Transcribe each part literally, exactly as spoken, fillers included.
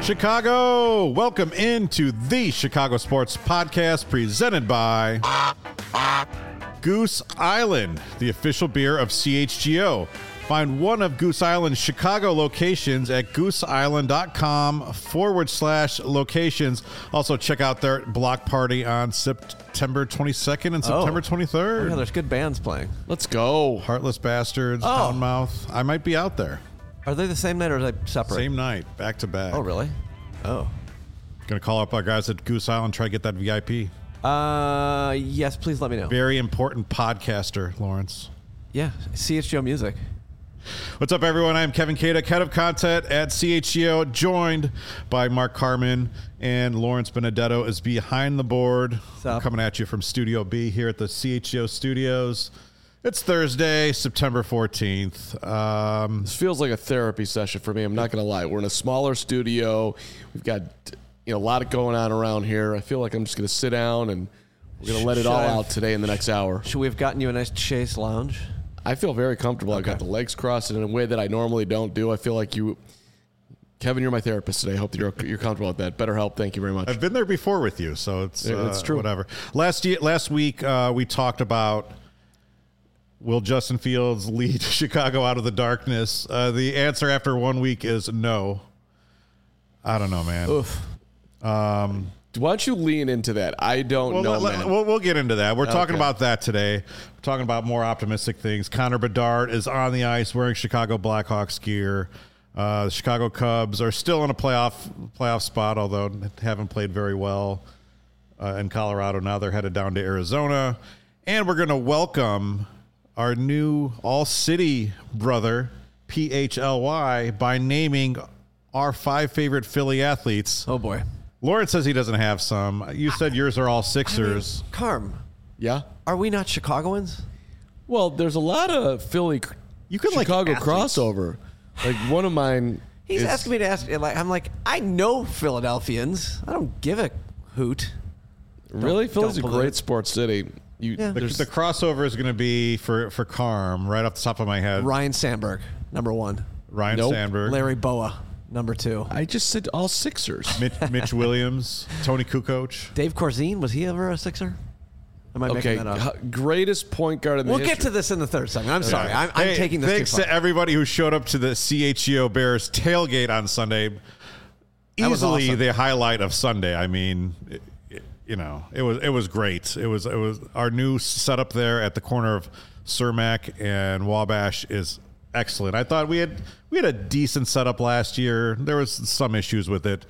Chicago, welcome into the Chicago Sports Podcast presented by Goose Island, the official beer of C H G O. Find one of Goose Island's Chicago locations at gooseisland.com forward slash locations. Also, check out their block party on September twenty-second and September Oh. twenty-third. Oh, yeah, there's good bands playing. Let's go. Heartless Bastards, Oh. Poundmouth. I might be out there. Are they the same night or are they separate? Same night, back to back. Oh, really? Oh. Gonna call up our guys at Goose Island, try to get that V I P. Uh, yes, please let me know. Very important podcaster, Lawrence. Yeah, C H G O Music. What's up, everyone? I'm Kevin Kaduk, head of content at C H G O, joined by Mark Carman, and Lawrence Benedetto is behind the board. up? Coming at you from Studio B here at the C H G O studios. It's Thursday, September fourteenth. Um, This feels like a therapy session for me. I'm not going to lie. We're in a smaller studio. We've got you know a lot going on around here. I feel like I'm just going to sit down and we're going to let it all Should I- out today in the next hour. Should we have gotten you a nice Chase lounge? I feel very comfortable. I've got the legs crossed in a way that I normally don't do. I feel like you, Kevin, you're my therapist today. I hope that you're, you're comfortable with that. BetterHelp, thank you very much. I've been there before with you, so it's, Yeah, uh, it's true. Whatever. Last year, last week, uh, we talked about will Justin Fields lead Chicago out of the darkness? Uh, the answer after one week is no. I don't know, man. Oof. Why don't you lean into that? I don't Well, know, let- man. we'll, we'll get into that. We're talking Okay. about that today. We're talking about more optimistic things. Connor Bedard is on the ice wearing Chicago Blackhawks gear. Uh, the Chicago Cubs are still in a playoff playoff spot, although haven't played very well uh, in Colorado. Now they're headed down to Arizona. And we're going to welcome our new all-city brother, P H L Y, by naming our five favorite Philly athletes. Oh, boy. Lawrence says he doesn't have some. You said yours are all Sixers. Carm, yeah? are we not Chicagoans? Well, there's a lot of Philly You could like Chicago athletes. crossover. Like one of mine He's is, asking me to ask. Like, I'm like, I know Philadelphians. I don't give a hoot. Really? Don't- Philly's don't a pollute. great sports city. You, Yeah. The, there's- the crossover is going to be for, for Carm, right off the top of my head. Ryan Sandberg, number one. Ryan Nope. Sandberg. Larry Boa, number two. I just said all Sixers. Mitch, Mitch Williams. Tony Kukoc. Dave Corzine, was he ever a Sixer? Am I Okay, making that up? h- greatest point guard in the We'll get history. to this in the third segment. I'm sorry. I'm, I'm Hey, taking this Thanks too far. to everybody who showed up to the C H G O Bears tailgate on Sunday. That was Easily awesome. the highlight of Sunday. I mean, it, it- you know, it was it was great. It was it was our new setup there at the corner of Cermak and Wabash is excellent. I thought we had we had a decent setup last year. There was some issues with it.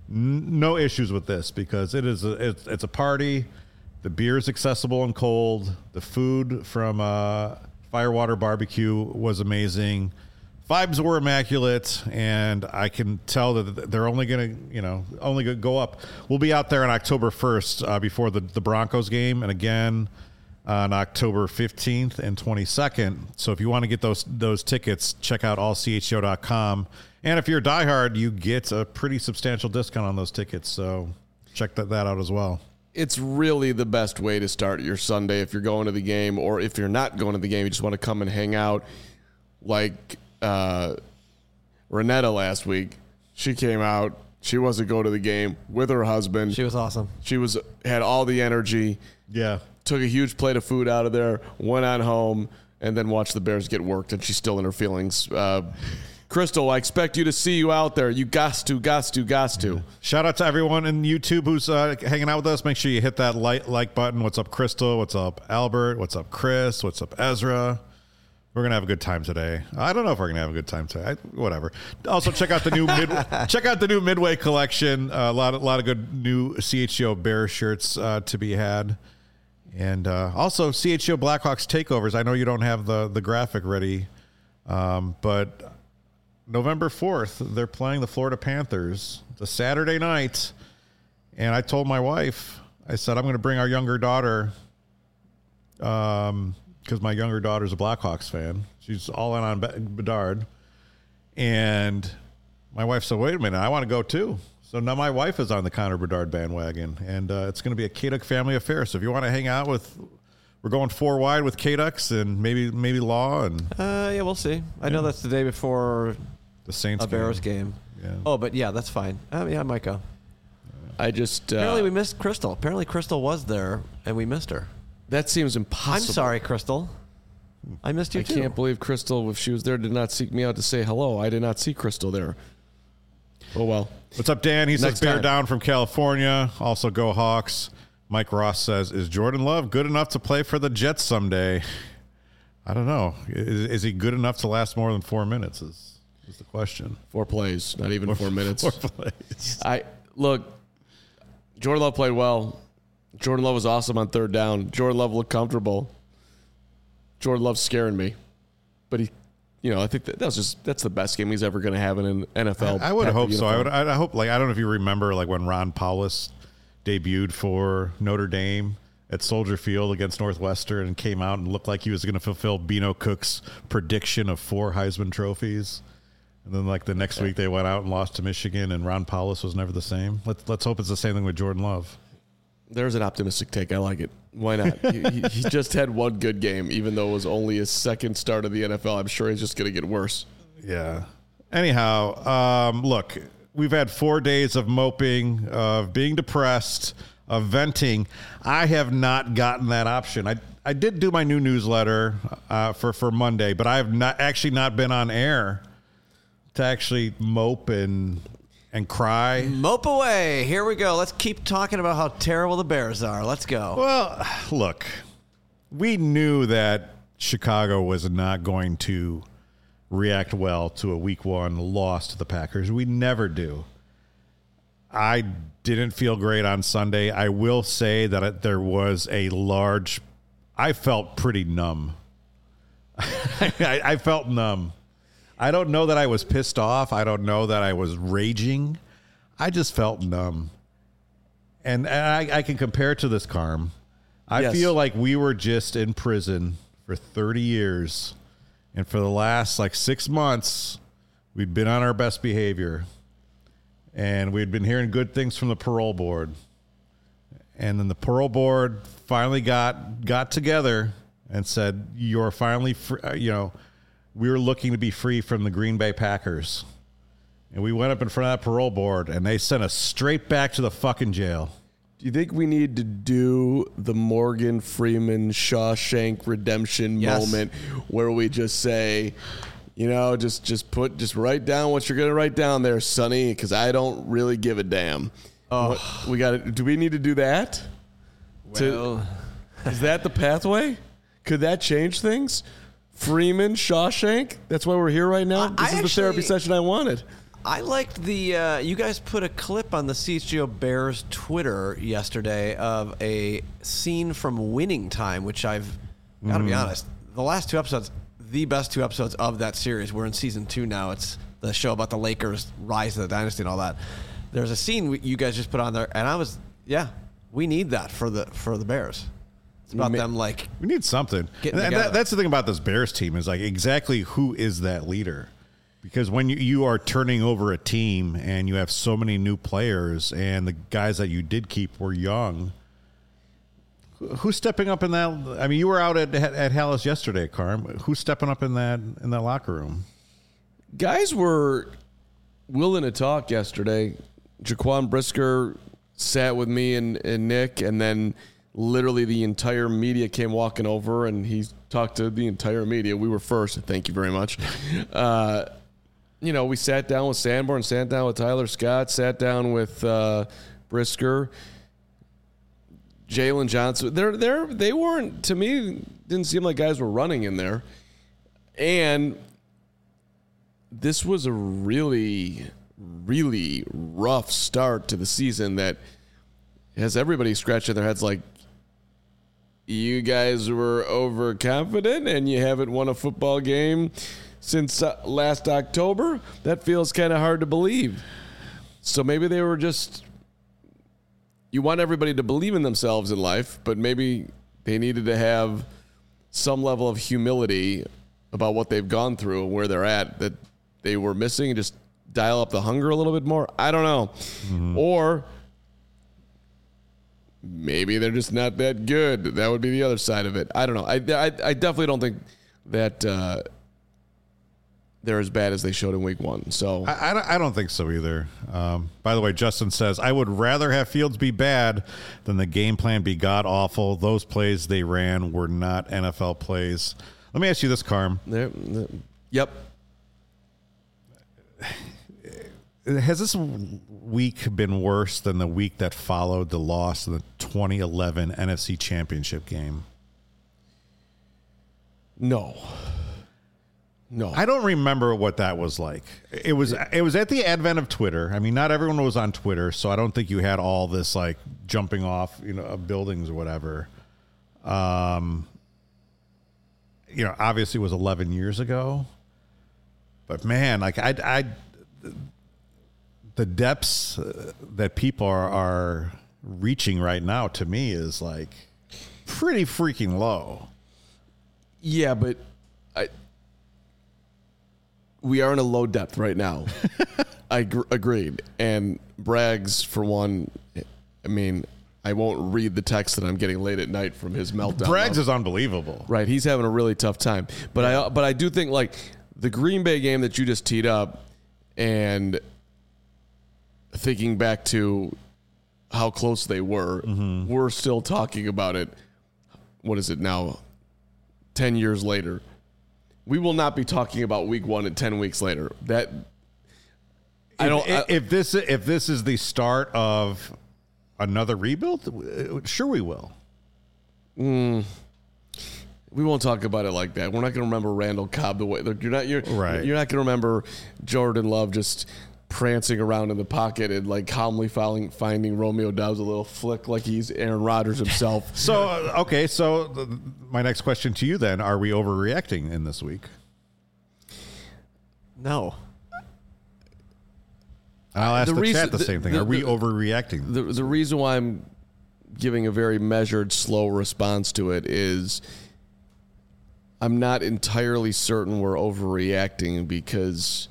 N- No issues with this because it is a, it's, it's a party. The beer is accessible and cold. The food from uh, Firewater Barbecue was amazing. Vibes were immaculate, and I can tell that they're only going to, you know, only going to go up. We'll be out there on October first uh, before the, the Broncos game, and again on October fifteenth and twenty-second. So if you want to get those those tickets, check out all c h o dot com. And if you're a diehard, you get a pretty substantial discount on those tickets. So check that, that out as well. It's really the best way to start your Sunday if you're going to the game, or if you're not going to the game, you just want to come and hang out. Like uh, Renetta last week, she came out. She was to go to the game with her husband. She was awesome. She was had all the energy. Yeah. Took a huge plate of food out of there. Went on home and then watched the Bears get worked. And she's still in her feelings. Uh, Crystal, I expect you to see you out there. You got to, got to, got to. Shout out to everyone in YouTube who's uh, hanging out with us. Make sure you hit that like, like button. What's up, Crystal? What's up, Albert? What's up, Chris? What's up, Ezra? We're gonna have a good time today. I don't know if we're gonna have a good time today. I, whatever. Also, check out the new mid. check out the new Midway collection. Uh, a lot, of, lot of good new C H G O Bears shirts uh, to be had, and uh, also C H G O Blackhawks takeovers. I know you don't have the the graphic ready, um, but November fourth, they're playing the Florida Panthers. It's a Saturday night, and I told my wife, I said I'm going to bring our younger daughter. Um. Because my younger daughter's a Blackhawks fan. She's all in on Bedard. And my wife said, wait a minute, I want to go too. So now my wife is on the Connor Bedard bandwagon. And uh, it's going to be a Kaduk family affair. So if you want to hang out with, we're going four wide with Kaduks and maybe maybe Law and Uh, yeah, we'll see. I know that's the day before the Saints a Bears game. game. Yeah. Oh, but yeah, that's fine. Um, yeah, I might go. I just uh, Apparently we missed Crystal. Apparently Crystal was there and we missed her. that seems impossible. I'm sorry, Crystal. I missed you I too. can't believe Crystal, if she was there, did not seek me out to say hello. I did not see Crystal there. Oh well. What's up, Dan? He Next says bear time. down from California. Also go Hawks. Mike Ross says, is Jordan Love good enough to play for the Jets someday? I don't know. Is, is he good enough to last more than four minutes is, is the question. Four plays, not even four minutes. Four plays. I look, Jordan Love played well. Jordan Love was awesome on third down. Jordan Love looked comfortable. Jordan Love's scaring me. But he, you know, I think that, that was just that's the best game he's ever going to have in an N F L. I, I would Packer hope so. I uniform. would. I hope. Like I don't know if you remember, like when Ron Powlus debuted for Notre Dame at Soldier Field against Northwestern and came out and looked like he was going to fulfill Bino Cook's prediction of four Heisman trophies. And then, like the next week, they went out and lost to Michigan, and Ron Powlus was never the same. Let's let's hope it's the same thing with Jordan Love. There's an optimistic take. I like it. Why not? he, he, he just had one good game, even though it was only his second start of the N F L. I'm sure he's just going to get worse. Yeah. Anyhow, um, look, we've had four days of moping, of being depressed, of venting. I have not gotten that option. I I did do my new newsletter uh, for for Monday, but I have not actually not been on air to actually mope and and cry. Mope away. Here we go. Let's keep talking about how terrible the Bears are. Let's go. Well, look, we knew that Chicago was not going to react well to a week one loss to the Packers. We never do. I didn't feel great on Sunday. I will say that it, there was a large, I felt pretty numb. I, I felt numb. I don't know that I was pissed off. I don't know that I was raging. I just felt numb. And, and I, I can compare it to this, Carm. I Yes. feel like we were just in prison for thirty years. And for the last like six months, we'd been on our best behavior. And we'd been hearing good things from the parole board. And then the parole board finally got got together and said, you're finally, free, you know, we were looking to be free from the Green Bay Packers. And we went up in front of that parole board, and they sent us straight back to the fucking jail. Do you think we need to do the Morgan Freeman Shawshank Redemption Yes. moment where we just say, you know, just just put just write down what you're gonna write down there, Sonny, because I don't really give a damn. Oh. What- we got to do. We need to do that. To- Well, is that the pathway? Could that change things? Freeman Shawshank. That's why we're here right now. I- This I is the therapy actually- session I wanted. I liked the, uh, you guys put a clip on the C H G O Bears Twitter yesterday of a scene from Winning Time, which I've got to be honest, the last two episodes, the best two episodes of that series. We're in season two now. It's the show about the Lakers' rise to the dynasty and all that. There's a scene we- you guys just put on there, and I was, yeah, we need that for the for the Bears. It's about Ma- them like, We need something. Getting And together. that, that's the thing about this Bears team is like exactly who is that leader? Because when you, you are turning over a team and you have so many new players and the guys that you did keep were young, who- who's stepping up in that? I mean, you were out at at Hallis yesterday, Carm. Who's stepping up in that in that locker room? Guys were willing to talk yesterday. Jaquan Brisker sat with me and, and Nick, and then literally the entire media came walking over, and he talked to the entire media. We were first. Thank you very much. Uh, you know, we sat down with Sanborn, sat down with Tyler Scott, sat down with uh, Brisker, Jalen Johnson. They're, they're, they weren't, to me, didn't seem like guys were running in there. And this was a really, really rough start to the season that has everybody scratching their heads like, you guys were overconfident and you haven't won a football game since uh, last October? That feels kind of hard to believe. So maybe they were just, you want everybody to believe in themselves in life, but maybe they needed to have some level of humility about what they've gone through and where they're at that they were missing, and just dial up the hunger a little bit more. I don't know. Mm-hmm. Or maybe they're just not that good. That would be the other side of it. I don't know. I, I, I definitely don't think that uh, they're as bad as they showed in week one. So I, I, don't, I don't think so either. Um, by the way, Justin says, I would rather have Fields be bad than the game plan be god-awful. Those plays they ran were not N F L plays. Let me ask you this, Carm. They're, they're, yep. Has this week been worse than the week that followed the loss in the twenty eleven N F C Championship game? No. No. I don't remember what that was like. It was it was at the advent of Twitter. I mean, not everyone was on Twitter, so I don't think you had all this like jumping off, you know, of buildings or whatever. Um, you know, obviously it was eleven years ago. But man, like I, I the depths uh, that people are, are reaching right now to me is like pretty freaking low. Yeah, but I. We are in a low depth right now. I gr- agreed. And Braggs, for one, I mean, I won't read the text that I'm getting late at night from his meltdown. Braggs is unbelievable. Right. He's having a really tough time. But yeah. I but I do think, like, the Green Bay game that you just teed up and thinking back to how close they were, mm-hmm. we're still talking about it. What is it now? ten years later. We will not be talking about week one and ten weeks later. That I don't. If, I, if this if this is the start of another rebuild, sure we will. Mm, we won't talk about it like that. We're not going to remember Randall Cobb the way you're not. You're right. You're not going to remember Jordan Love just prancing around in the pocket and like calmly finding, finding Romeo Doubs a little flick like he's Aaron Rodgers himself. So, okay, so the, my next question to you then, are we overreacting in this week? No. And I'll ask the the, reason, chat the, the same thing. The, are we the, overreacting? The, the reason why I'm giving a very measured, slow response to it is I'm not entirely certain we're overreacting because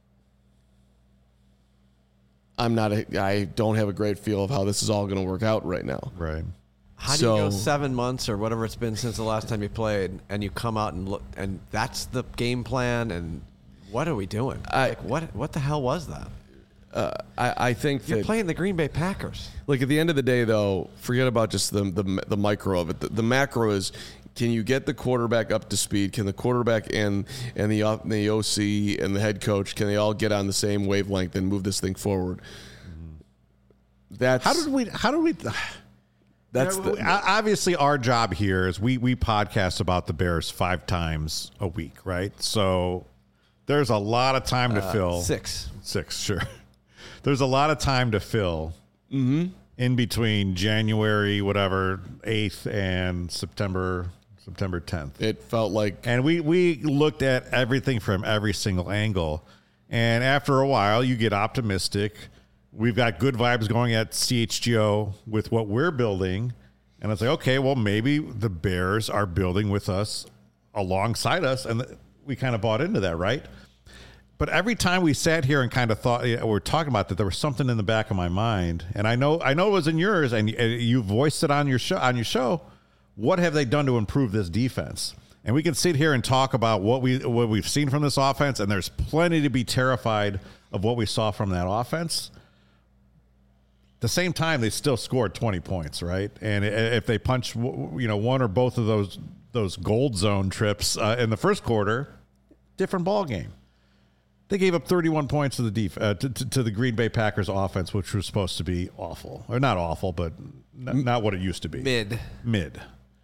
I'm not. A, I don't have a great feel of how this is all going to work out right now. Right. How do so, you go seven months or whatever it's been since the last time you played, and you come out and look, and that's the game plan? And what are we doing? I, like what? What the hell was that? Uh, I, I think you're that, playing the Green Bay Packers. Like at the end of the day, though, forget about just the the, the micro of it. The, the macro is: can you get the quarterback up to speed? Can the quarterback and and the the O C and the head coach, can they all get on the same wavelength and move this thing forward? That's how did we? How did we? That's you know, the, obviously our job here is we we podcast about the Bears five times a week, right? So there's a lot of time to uh, fill. Six, six, sure. There's a lot of time to fill mm-hmm. in between January whatever eighth and September. September tenth. It felt like, and we we looked at everything from every single angle, and after a while, you get optimistic. We've got good vibes going at C H G O with what we're building, and it's like, okay, well, maybe the Bears are building with us alongside us, and we kind of bought into that, right? But every time we sat here and kind of thought, we were talking about that, there was something in the back of my mind, and I know I know it was in yours, and you voiced it on your show on your show. What have they done to improve this defense? And we can sit here and talk about what we what we've seen from this offense, and there's plenty to be terrified of what we saw from that offense. At the same time, they still scored twenty points, right? And if they punch, you know, one or both of those those gold zone trips uh, in the first quarter, different ball game. They gave up thirty-one points to the def- uh, to, to, to the Green Bay Packers offense, which was supposed to be awful, or not awful, but n- not what it used to be. Mid, mid.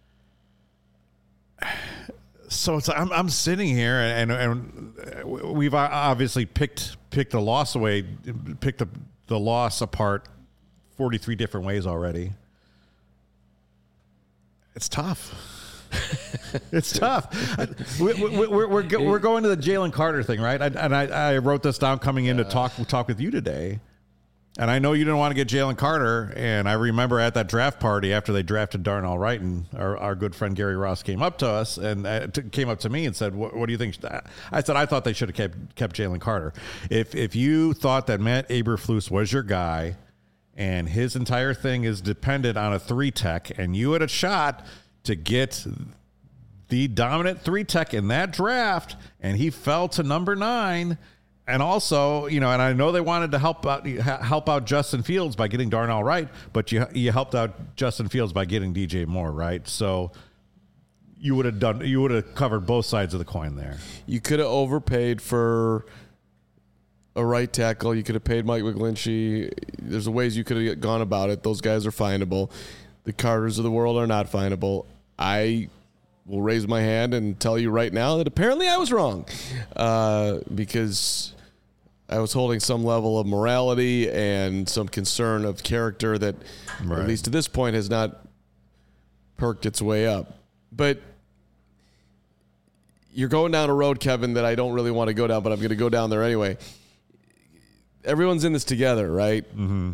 So it's I'm I'm sitting here and and we've obviously picked picked the loss away, picked the the loss apart forty-three different ways already. It's tough. It's tough. we, we, we're we're we're going to the Jalen Carter thing, right? I, and I, I wrote this down coming in to talk talk with you today. And I know you didn't want to get Jalen Carter, and I remember at that draft party after they drafted Darnell Wright, and our, our good friend Gary Ross came up to us and uh, t- came up to me and said, what, what do you think? I said, I thought they should have kept kept Jalen Carter. If if you thought that Matt Eberflus was your guy and his entire thing is dependent on a three tech, and you had a shot to get the dominant three tech in that draft, and he fell to number nine. And also, you know, and I know they wanted to help out help out Justin Fields by getting Darnell Wright, but you you helped out Justin Fields by getting D J Moore, right? So you would have done you would have covered both sides of the coin there. You could have overpaid for a right tackle. You could have paid Mike McGlinchey. There's ways you could have gone about it. Those guys are findable. The Carters of the world are not findable. I will raise my hand and tell you right now that apparently I was wrong, uh, because I was holding some level of morality and some concern of character that, right, at least to this point, has not perked its way up. But you're going down a road, Kevin, that I don't really want to go down, but I'm going to go down there anyway. Everyone's in this together, right? Mm-hmm.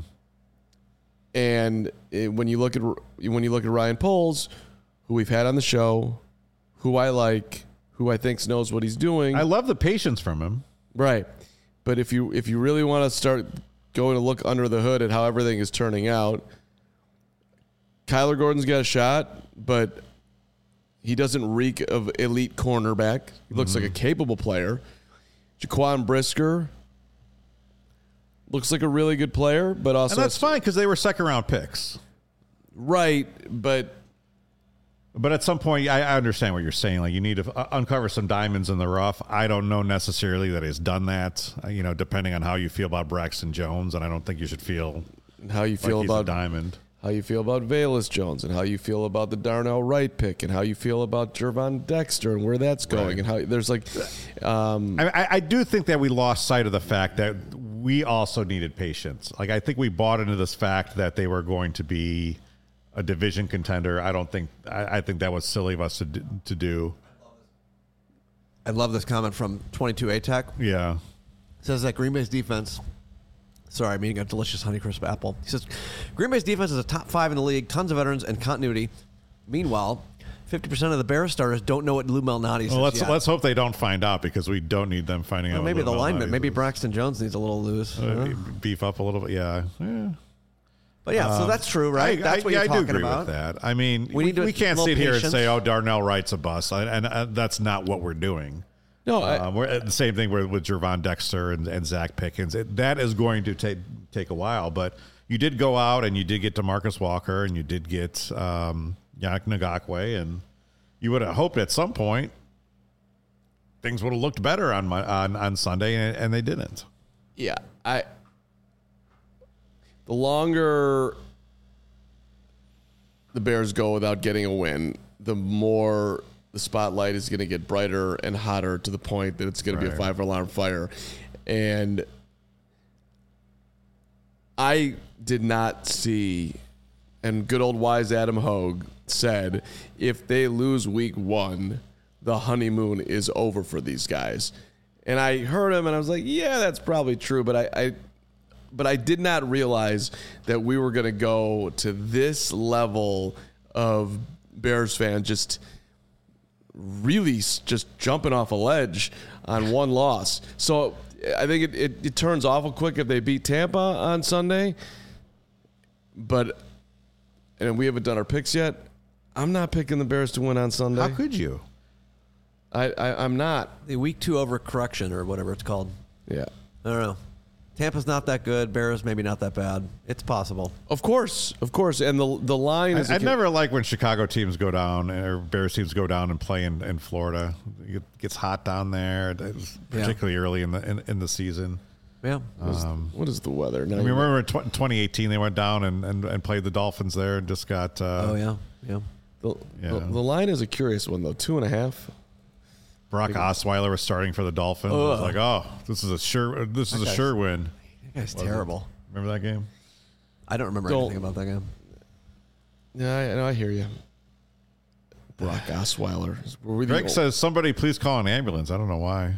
And it, when you look at when you look at Ryan Poles, who we've had on the show, who I like, who I think knows what he's doing. I love the patience from him. Right. But if you if you really want to start going to look under the hood at how everything is turning out, Kyler Gordon's got a shot, but he doesn't reek of elite cornerback. He looks mm-hmm. like a capable player. Jaquan Brisker looks like a really good player, but also... And that's fine because they were second-round picks. Right, but... But at some point, I, I understand what you're saying. Like, you need to uh, uncover some diamonds in the rough. I don't know necessarily that he's done that, uh, you know, depending on how you feel about Braxton Jones, and I don't think you should feel how you feel like he's about a diamond. How you feel about Velus Jones, and how you feel about the Darnell Wright pick, and how you feel about Gervon Dexter and where that's going, right. and how there's like... Um, I, I do think that we lost sight of the fact that we also needed patience. Like, I think we bought into this fact that they were going to be a division contender. I don't think I, I think that was silly of us to do, to do. I love this comment from twenty-two A Tech. Yeah, it says that Green Bay's defense. Sorry, I'm eating a delicious Honeycrisp apple. He says Green Bay's defense is a top five in the league, tons of veterans and continuity. Meanwhile, fifty percent of the Bears starters don't know what Lou Malnati is. Well, let's yet. let's hope they don't find out because we don't need them finding well, out. Maybe what the Lou lineman, Malnati maybe is. Braxton Jones needs a little loose. Uh, huh? Beef up a little bit, yeah. yeah. But yeah, so that's true, right? I, that's I, what yeah, you're I do talking agree about. with that. I mean, We we, need to- we can't a little sit here and patience. say, "Oh, Darnell Wright's a bust," and, and uh, that's not what we're doing. no, I, Um, we're uh, the same thing with, with Gervon Dexter and, and Zach Pickens. It, that is going to take take a while, but you did go out and you did get DeMarcus Walker and you did get um, Yannick Ngakoue, and you would have hoped at some point things would have looked better on my, on on Sunday, and, and they didn't. yeah, I. The longer the Bears go without getting a win, the more the spotlight is going to get brighter and hotter to the point that it's going to be a Right. five-alarm fire. And I did not see, and good old wise Adam Hogue said, if they lose week one, the honeymoon is over for these guys. And I heard him, and I was like, yeah, that's probably true. But I, I but I did not realize that we were going to go to this level of Bears fans just really s- just jumping off a ledge on one loss. So I think it, it, it turns awful quick if they beat Tampa on Sunday. But, and we haven't done our picks yet, I'm not picking the Bears to win on Sunday. How could you? I, I, I'm not. The week two overcorrection or whatever it's called. Yeah. I don't know. Tampa's not that good. Bears maybe not that bad. It's possible. Of course. Of course. And the the line is... I, I never like when Chicago teams go down or Bears teams go down and play in, in Florida. It gets hot down there, particularly yeah. early in the in, in the season. Yeah. Um, what is the weather? Now I mean, remember in tw- twenty eighteen they went down and, and, and played the Dolphins there and just got. Uh, oh yeah, yeah. The, yeah. the, the line is a curious one though. Two and a half. Brock Osweiler was starting for the Dolphins. Ugh. It was like, oh, this is a sure, this is a sure win. That guy's terrible. It? Remember that game? I don't remember Don't, anything about that game. Yeah, I, no, I hear you. Brock Osweiler. Were we the Greg old- says, somebody please call an ambulance. I don't know why.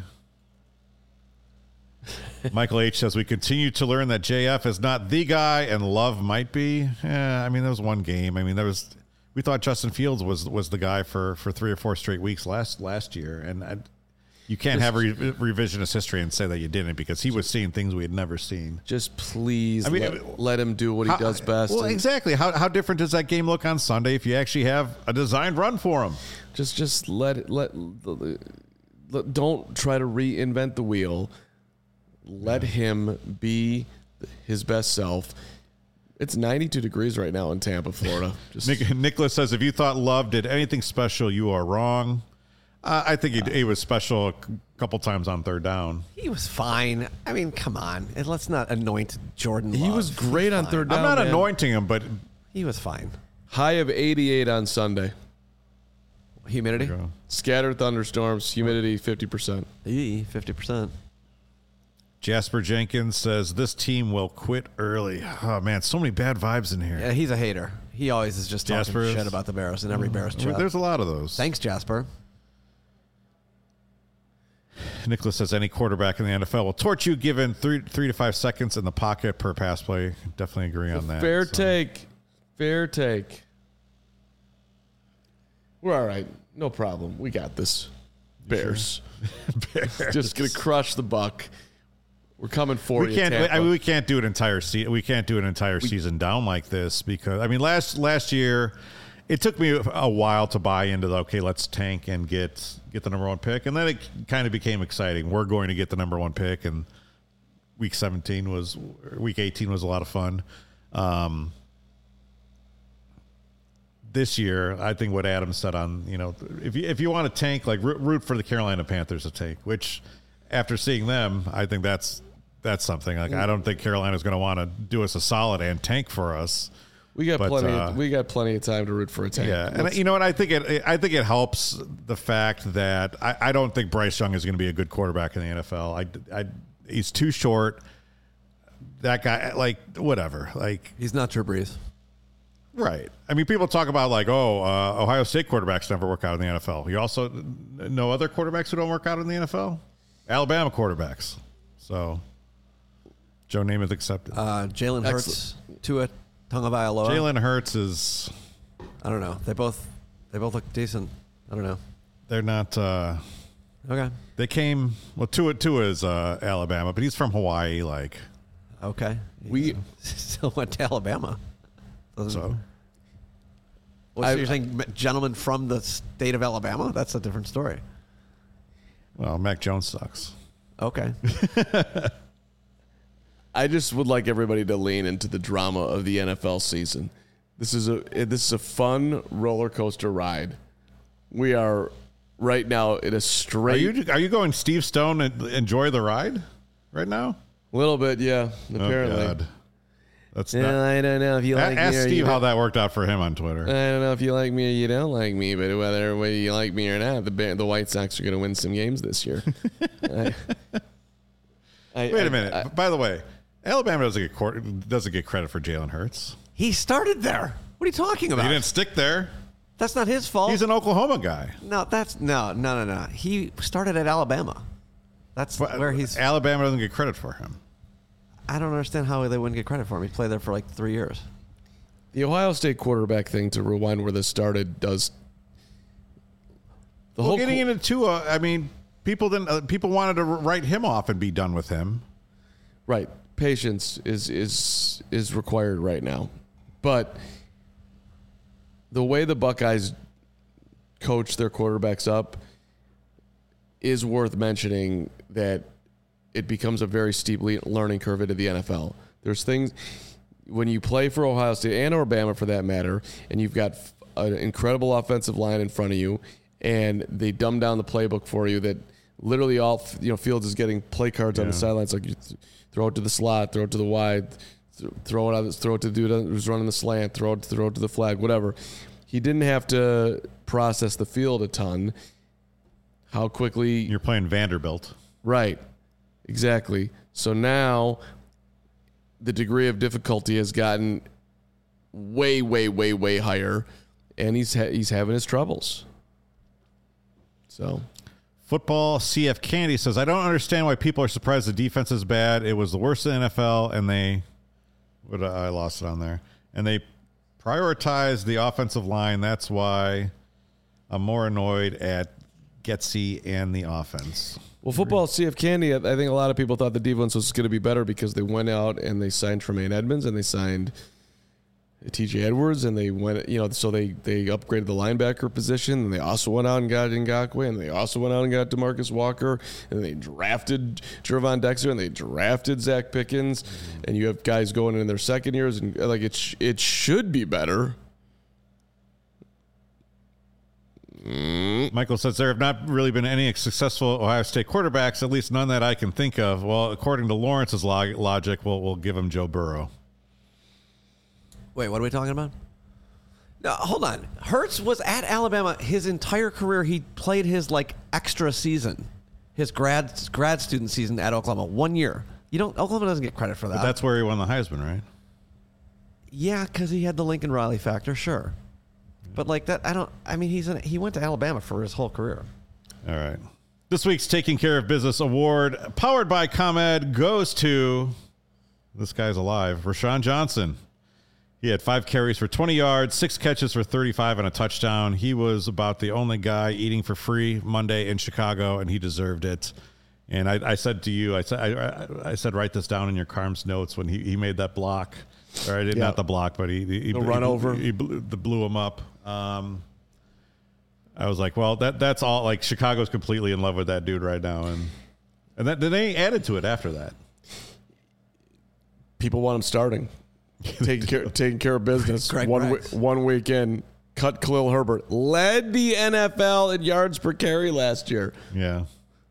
Michael H. says, we continue to learn that J F is not the guy and Love might be. Yeah, I mean, there was one game. I mean, there was... We thought Justin Fields was was the guy for, for three or four straight weeks last last year, and I, You can't have re- revisionist history and say that you didn't because he was seeing things we had never seen. Just please I mean, let, let him do what how, he does best. Well, exactly. How how different does that game look on Sunday if you actually have a designed run for him? Just just let it let, let don't try to reinvent the wheel. Let yeah. him be his best self. It's ninety-two degrees right now in Tampa, Florida. Just Nick, Nicholas says, if you thought Love did anything special, you are wrong. Uh, I think he, he was special a couple times on third down. He was fine. I mean, come on. And let's not anoint Jordan Love. He was great on third down. I'm not man. anointing him, but he was fine. High of eighty-eight on Sunday. Humidity? Scattered thunderstorms. Humidity fifty percent. E, fifty percent. Jasper Jenkins says, this team will quit early. Oh, man, so many bad vibes in here. Yeah, he's a hater. He always is just talking Jasper shit is? about the Bears in every Bears chat. There's a lot of those. Thanks, Jasper. Nicholas says, any quarterback in the N F L will torch you given three three to five seconds in the pocket per pass play. Definitely agree on that. Fair so. take. Fair take. We're all right. No problem. We got this. Bears. Bears. Just going to crush the Buck. We're coming for we you, can't. Tampa. I mean, we can't do an entire season. We can't do an entire we, season down like this because I mean, last last year, it took me a while to buy into the okay, let's tank and get get the number one pick, and then it kind of became exciting. We're going to get the number one pick, and week seventeen was week eighteen was a lot of fun. Um, this year, I think what Adam said on you know if you if you want to tank, like root for the Carolina Panthers to tank, which after seeing them, I think that's. That's something like I don't think Carolina's going to want to do us a solid and tank for us. We got but, plenty. Uh, of, we got plenty of time to root for a tank. Yeah, Let's, and you know what? I think it. I think it helps the fact that I, I don't think Bryce Young is going to be a good quarterback in the N F L. I, I he's too short. That guy, like whatever, like he's not Drew Brees. Right. I mean, people talk about like, oh, uh, Ohio State quarterbacks never work out in the N F L. You also know other quarterbacks who don't work out in the N F L. Alabama quarterbacks. So. Joe Namath accepted. Uh, Jalen Hurts, Tua Tagovailoa. Jalen Hurts is. I don't know. They both, they both look decent. I don't know. They're not. Uh, okay. They came. Well, Tua Tua is uh, Alabama, but he's from Hawaii. Like. Okay. We still went to Alabama. Doesn't, so. Well, so you're saying gentlemen from the state of Alabama? That's a different story. Well, Mac Jones sucks. Okay. I just would like everybody to lean into the drama of the N F L season. This is a this is a fun roller coaster ride. We are right now in a straight. Are you are you going Steve Stone and enjoy the ride right now? A little bit, yeah. Apparently, oh, God. That's yeah, not, I don't know if you like ask me. Ask Steve how that worked out for him on Twitter. I don't know if you like me or you don't like me, but whether whether you like me or not, the the White Sox are going to win some games this year. I, I, Wait a minute. I, I, By the way. Alabama doesn't get court, doesn't get credit for Jalen Hurts. He started there. What are you talking about? He didn't stick there. That's not his fault. He's an Oklahoma guy. No, that's no, no, no, no. He started at Alabama. That's but, where he's. Alabama doesn't get credit for him. I don't understand how they wouldn't get credit for him. He played there for like three years. The Ohio State quarterback thing, to rewind where this started, does. The well, whole getting co- into Tua, I mean, people didn't. Uh, people wanted to write him off and be done with him. Right. Patience is is is required right now, but the way the Buckeyes coach their quarterbacks up is worth mentioning. That it becomes a very steep learning curve into the N F L. There's things when you play for Ohio State and Alabama, for that matter, and you've got an incredible offensive line in front of you, and they dumb down the playbook for you. That literally all you know, Fields is getting play cards yeah. on the sidelines like. You, Throw it to the slot, throw it to the wide, throw it out, throw it to the dude who's running the slant, throw it, throw it to the flag, whatever. He didn't have to process the field a ton. How quickly you're playing Vanderbilt, right? Exactly. So now the degree of difficulty has gotten way, way, way, way higher, and he's ha- he's having his troubles. So. Football C F Candy says, I don't understand why people are surprised the defense is bad. It was the worst in the N F L, and they, what I lost it on there, and they prioritized the offensive line. That's why I'm more annoyed at Getsy and the offense. Well, football, C F Candy, I think a lot of people thought the defense was going to be better because they went out and they signed Tremaine Edmonds and they signed T J Edwards and they went, you know, so they, they upgraded the linebacker position and they also went out and got Ngakoue and they also went out and got DeMarcus Walker and they drafted Gervon Dexter and they drafted Zach Pickens mm-hmm. and you have guys going in their second years and like it, sh- it should be better. Michael says there have not really been any successful Ohio State quarterbacks, at least none that I can think of. Well, according to Lawrence's log- logic, we'll, we'll give him Joe Burrow. Wait, what are we talking about? No, hold on. Hurts was at Alabama his entire career. He played his like extra season, his grad grad student season at Oklahoma, one year. You don't. Oklahoma doesn't get credit for that. But that's where he won the Heisman, right? Yeah, because he had the Lincoln Riley factor, sure. But like that, I don't. I mean, he's an, he went to Alabama for his whole career. All right. This week's Taking Care of Business Award, powered by ComEd, goes to this guy's alive, Rashawn Johnson. He had five carries for twenty yards, six catches for thirty-five, and a touchdown. He was about the only guy eating for free Monday in Chicago, and he deserved it. And I, I said to you, I said, I, I said, write this down in your Carm's notes when he, he made that block. Or I did yeah. not the block, but he, he, he the run he, over. He, he blew, blew him up. Um, I was like, well, that that's all. Like Chicago's completely in love with that dude right now, and and that, then they added to it after that. People want him starting, taking care taking care of business. Greg one Rex. one weekend, cut Khalil Herbert, led the N F L in yards per carry last year. Yeah.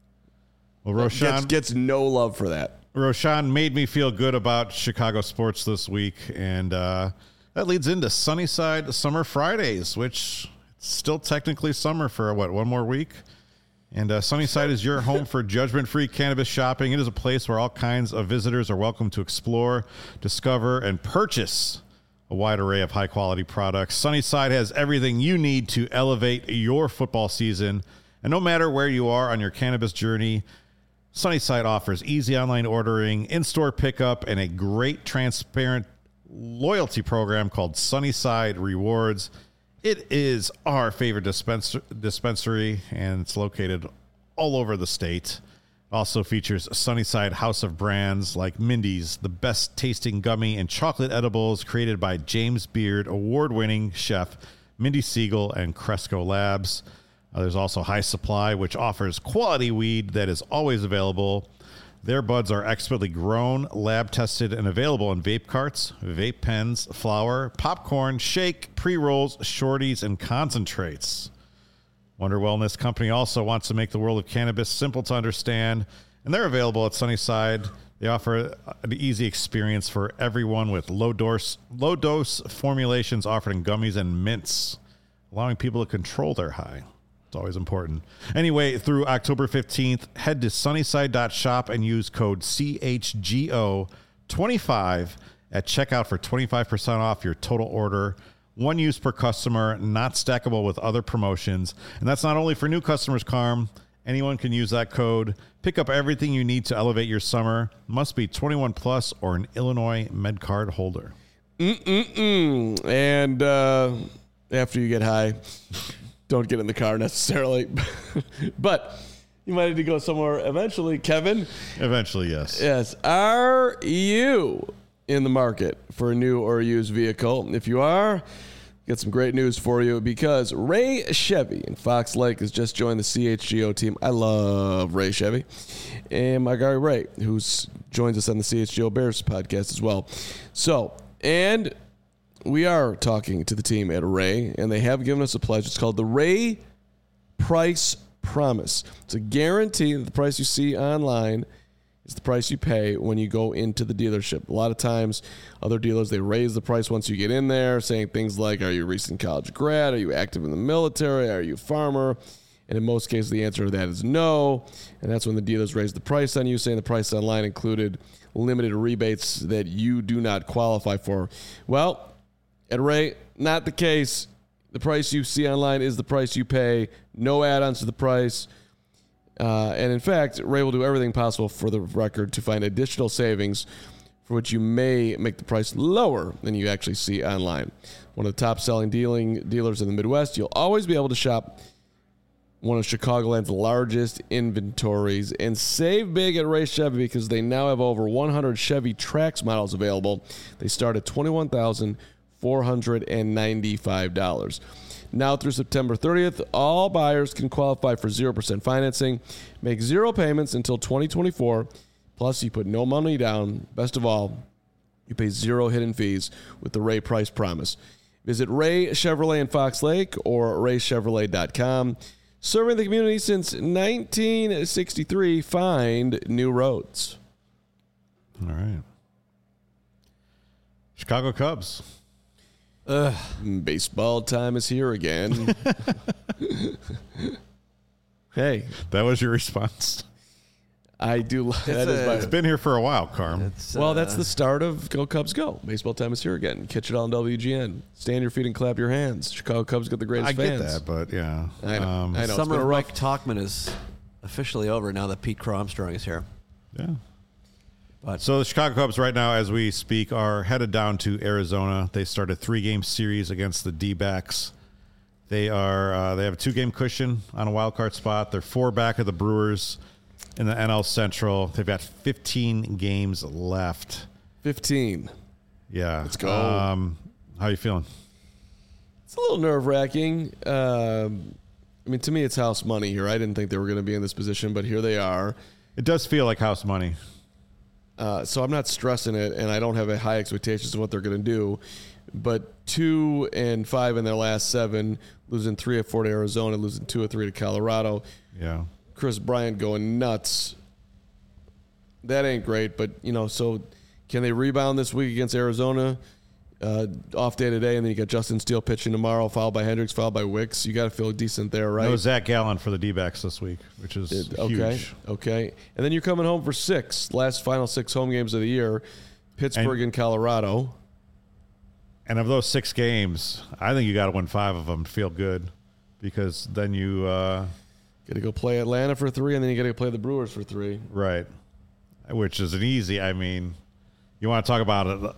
Well, Roshan gets, gets no love for that. Roshan made me feel good about Chicago sports this week, and uh, that leads into Sunnyside Summer Fridays, which it's still technically summer for, what, one more week? And uh, Sunnyside is your home for judgment-free cannabis shopping. It is a place where all kinds of visitors are welcome to explore, discover, and purchase a wide array of high-quality products. Sunnyside has everything you need to elevate your football season. And no matter where you are on your cannabis journey, Sunnyside offers easy online ordering, in-store pickup, and a great transparent loyalty program called Sunnyside Rewards. It is our favorite dispens- dispensary, and it's located all over the state. It also features Sunnyside House of Brands like Mindy's, the best tasting gummy and chocolate edibles created by James Beard, award-winning chef Mindy Siegel and Cresco Labs. Uh, there's also High Supply, which offers quality weed that is always available. Their buds are expertly grown, lab-tested, and available in vape carts, vape pens, flour, popcorn, shake, pre-rolls, shorties, and concentrates. Wonder Wellness Company also wants to make the world of cannabis simple to understand, and they're available at Sunnyside. They offer an easy experience for everyone with low-dose, low-dose formulations offered in gummies and mints, allowing people to control their high. It's always important. Anyway, through October fifteenth, head to sunnyside dot shop and use code C H G O twenty-five at checkout for twenty-five percent off your total order. One use per customer, not stackable with other promotions. And that's not only for new customers, Carm. Anyone can use that code. Pick up everything you need to elevate your summer. Must be twenty-one plus or an Illinois MedCard holder. Mm-mm-mm. And uh, after you get high... Don't get in the car necessarily, but you might need to go somewhere eventually, Kevin. Eventually, yes. Yes. Are you in the market for a new or used vehicle? If you are, got some great news for you because Ray Chevy in Fox Lake has just joined the C H G O team. I love Ray Chevy. And my guy Ray, who joins us on the C H G O Bears podcast as well. So, and... we are talking to the team at Ray, and they have given us a pledge. It's called the Ray Price Promise. It's a guarantee that the price you see online is the price you pay when you go into the dealership. A lot of times, other dealers, they raise the price once you get in there, saying things like, are you a recent college grad? Are you active in the military? Are you a farmer? And in most cases, the answer to that is no. And that's when the dealers raise the price on you, saying the price online included limited rebates that you do not qualify for. Well, at Ray, not the case. The price you see online is the price you pay. No add-ons to the price. Uh, and in fact, Ray will do everything possible for the record to find additional savings for which you may make the price lower than you actually see online. One of the top-selling dealing dealers in the Midwest, you'll always be able to shop one of Chicagoland's largest inventories. And save big at Ray Chevy because they now have over one hundred Chevy Trax models available. They start at twenty-one thousand four hundred ninety-five dollars. Now through September thirtieth, all buyers can qualify for zero percent financing, make zero payments until twenty twenty-four, plus you put no money down. Best of all, you pay zero hidden fees with the Ray Price Promise. Visit Ray Chevrolet in Fox Lake or ray chevrolet dot com. Serving the community since nineteen sixty-three, find new roads. All right. Chicago Cubs. Ugh. Baseball time is here again. Hey. That was your response? I do. That is my, it's been here for a while, Carm. It's, well, uh, that's the start of Go Cubs Go. Baseball time is here again. Catch it all on W G N. Stand your feet and clap your hands. Chicago Cubs got the greatest I fans. get that, but yeah. I know. Um, I know. Summer of rough... Mike Talkman is officially over now that Pete Crow Armstrong is here. Yeah. But So the Chicago Cubs right now, as we speak, are headed down to Arizona. They start a three-game series against the D-backs. They are uh, they have a two-game cushion on a wild card spot. They're four back of the Brewers in the N L Central. They've got fifteen games left. fifteen. Yeah. Let's go. Um, how you feeling? It's a little nerve-wracking. Um, I mean, to me, it's house money here. I didn't think they were going to be in this position, but here they are. It does feel like house money. Uh, so I'm not stressing it, and I don't have a high expectations of what they're going to do. But two and five in their last seven, losing three or four to Arizona, losing two or three to Colorado. Yeah. Chris Bryant going nuts. That ain't great, but, you know, so can they rebound this week against Arizona? Uh, off day today, and then you got Justin Steele pitching tomorrow, followed by Hendricks, followed by Wicks. You got to feel decent there, right? No Zach Gallen for the D-backs this week, which is It- huge. okay, okay. And then you're coming home for six, last final six home games of the year, Pittsburgh and, and Colorado. And of those six games, I think you got to win five of them to feel good, because then you uh, Got to go play Atlanta for three, and then you got to play the Brewers for three. right, which is an easy. I mean, you want to talk about a,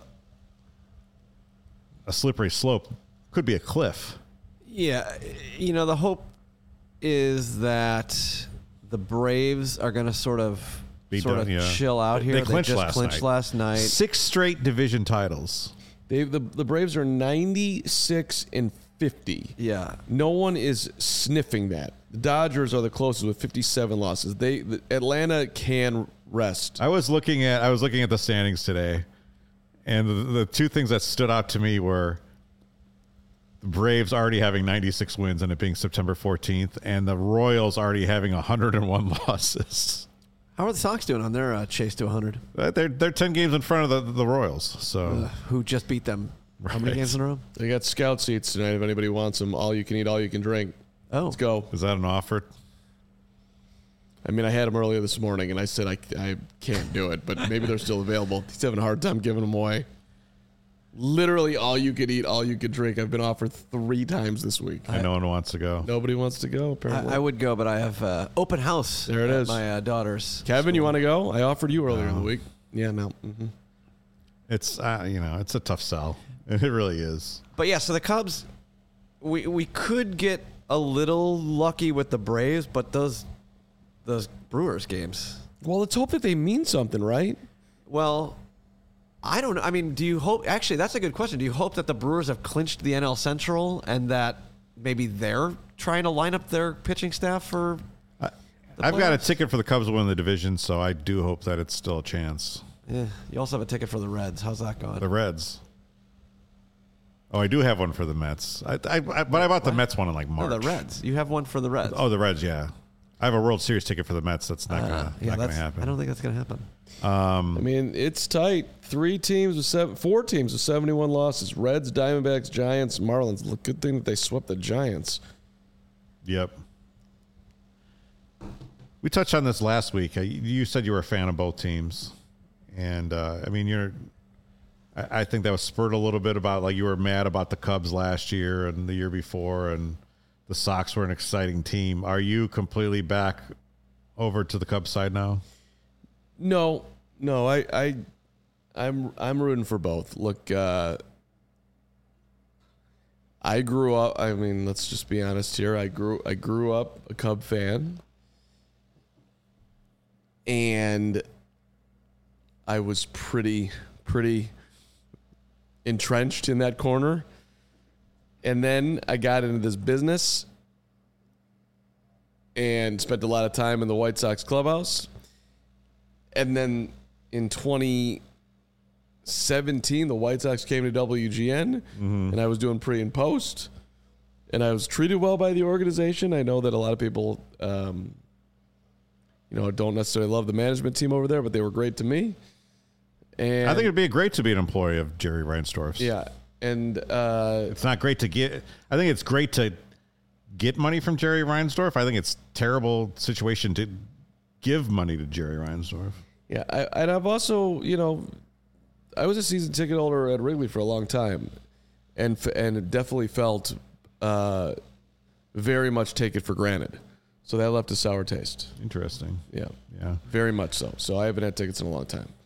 a slippery slope? Could be a cliff. yeah, you know, the hope is that the Braves are going to sort of Be sort done, of yeah. chill out They here. clinched just last clinched night. last night. Six straight division titles. They the the Braves are ninety-six and fifty. Yeah. No one is sniffing that. The Dodgers are the closest with fifty-seven losses. They the, Atlanta can rest. I was looking at I was looking at the standings today, and the, the two things that stood out to me were the Braves already having ninety-six wins and it being September fourteenth, and the Royals already having one hundred one losses. How are the Sox doing on their uh, chase to one hundred? Uh, They're they're ten games in front of the, the Royals. So Uh, who just beat them? How many Right. games in a row? They got scout seats tonight if anybody wants them. All you can eat, all you can drink. Oh, Let's go. is that an offer? I mean, I had them earlier this morning, and I said I, I can't do it, but maybe they're still available. He's having a hard time giving them away. Literally all you could eat, all you could drink. I've been offered three times this week. And no one wants to go. Nobody wants to go, apparently. I, I would go, but I have uh, open house. There it at is. My uh, daughter's. Kevin, you want to go? I offered you earlier in No. the week. Yeah, no. Mm-hmm. It's uh, you know it's a tough sell. It really is. But yeah, so the Cubs, we we could get a little lucky with the Braves, but those those Brewers games. Well, let's hope that they mean something, right? Well, I don't know. I mean, do you hope? Actually, that's a good question. Do you hope that the Brewers have clinched the N L Central and that maybe they're trying to line up their pitching staff for? I, The I've got a playoffs? ticket for the Cubs to win the division, so I do hope that it's still a chance. Yeah, you also have a ticket for the Reds. How's that going? The Reds. Oh, I do have one for the Mets. I, I, I but I bought the Mets one in like No, March. the Reds. You have one for the Reds. Oh, the Reds. Yeah, I have a World Series ticket for the Mets. That's not Uh, gonna yeah, not gonna that's, happen. I don't think that's gonna happen. I mean, it's tight. Three teams with seven, four teams with seventy-one losses: Reds, Diamondbacks, Giants, Marlins. Look, good thing that they swept the Giants. Yep. We touched on this last week. Uh, You said you were a fan of both teams, and uh, I mean, you're. I, I think that was spurred a little bit about like you were mad about the Cubs last year and the year before, and the Sox were an exciting team. Are you completely back over to the Cubs side now? No, no, I, I, I'm, I'm rooting for both. Look, uh, I grew up. I mean, let's just be honest here. I grew. I grew up a Cub fan, and I was pretty, pretty entrenched in that corner. And then I got into this business and spent a lot of time in the White Sox clubhouse. And then in twenty seventeen, the White Sox came to W G N, mm-hmm. and I was doing pre and post, and I was treated well by the organization. I know that a lot of people, um, you know, don't necessarily love the management team over there, but they were great to me. And I think it'd be great to be an employee of Jerry Reinsdorf's. Yeah, and uh, it's not great to get. I think it's great to get money from Jerry Reinsdorf. I think it's a terrible situation to give money to Jerry Reinsdorf. Yeah, I, and I've also, you know, I was a season ticket holder at Wrigley for a long time, and and definitely felt uh, very much take it for granted. So that left a sour taste. Interesting. Yeah, yeah, very much so. So I haven't had tickets in a long time.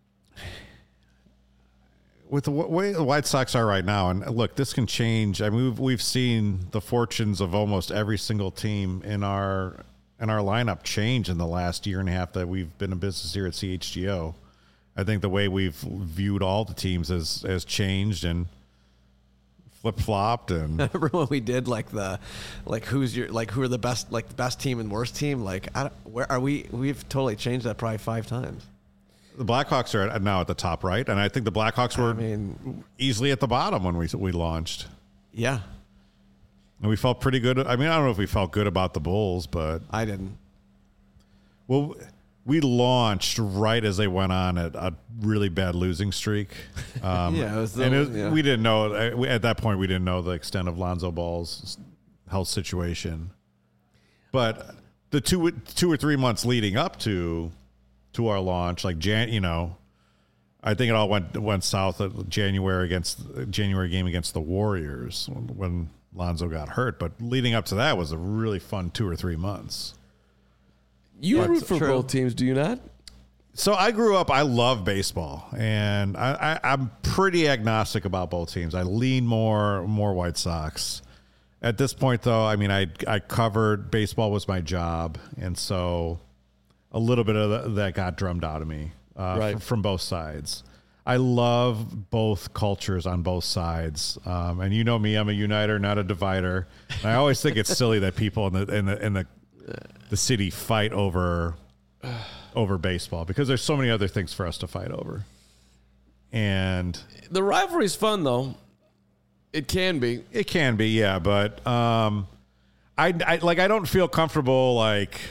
With the way the White Sox are right now, and look, this can change. I mean, we've we've seen the fortunes of almost every single team in our in our lineup change in the last year and a half that we've been in business here at C H G O. I think the way we've viewed all the teams has has changed and flip flopped. And remember when we did like the like who's your like who are the best like the best team and worst team? Like, I don't, where are we? We've totally changed that probably five times. The Blackhawks are at, now at the top right, and I think the Blackhawks were I mean, easily at the bottom when we we launched. Yeah, and we felt pretty good. I mean, I don't know if we felt good about the Bulls, but I didn't. Well, we launched right as they went on a, a really bad losing streak. Um, yeah, it was the, and it was, yeah. we didn't know at that point. We didn't know the extent of Lonzo Ball's health situation, but the two two or three months leading up to. to our launch, like Jan, you know, I think it all went went south at January against January game against the Warriors when, when Lonzo got hurt. But leading up to that was a really fun two or three months. You but, root for true. both teams, do you not? So I grew up. I love baseball, and I, I, I'm pretty agnostic about both teams. I lean more more White Sox. At this point, though, I mean, I I covered baseball was my job, and so. A little bit of that got drummed out of me uh, right. f- from both sides. I love both cultures on both sides, um, and you know me, I'm a uniter, not a divider. And I always think it's silly that people in the in the in the the city fight over over baseball because there's so many other things for us to fight over. And the rivalry's fun, though. It can be. It can be, yeah, but um, I, I like I don't feel comfortable like.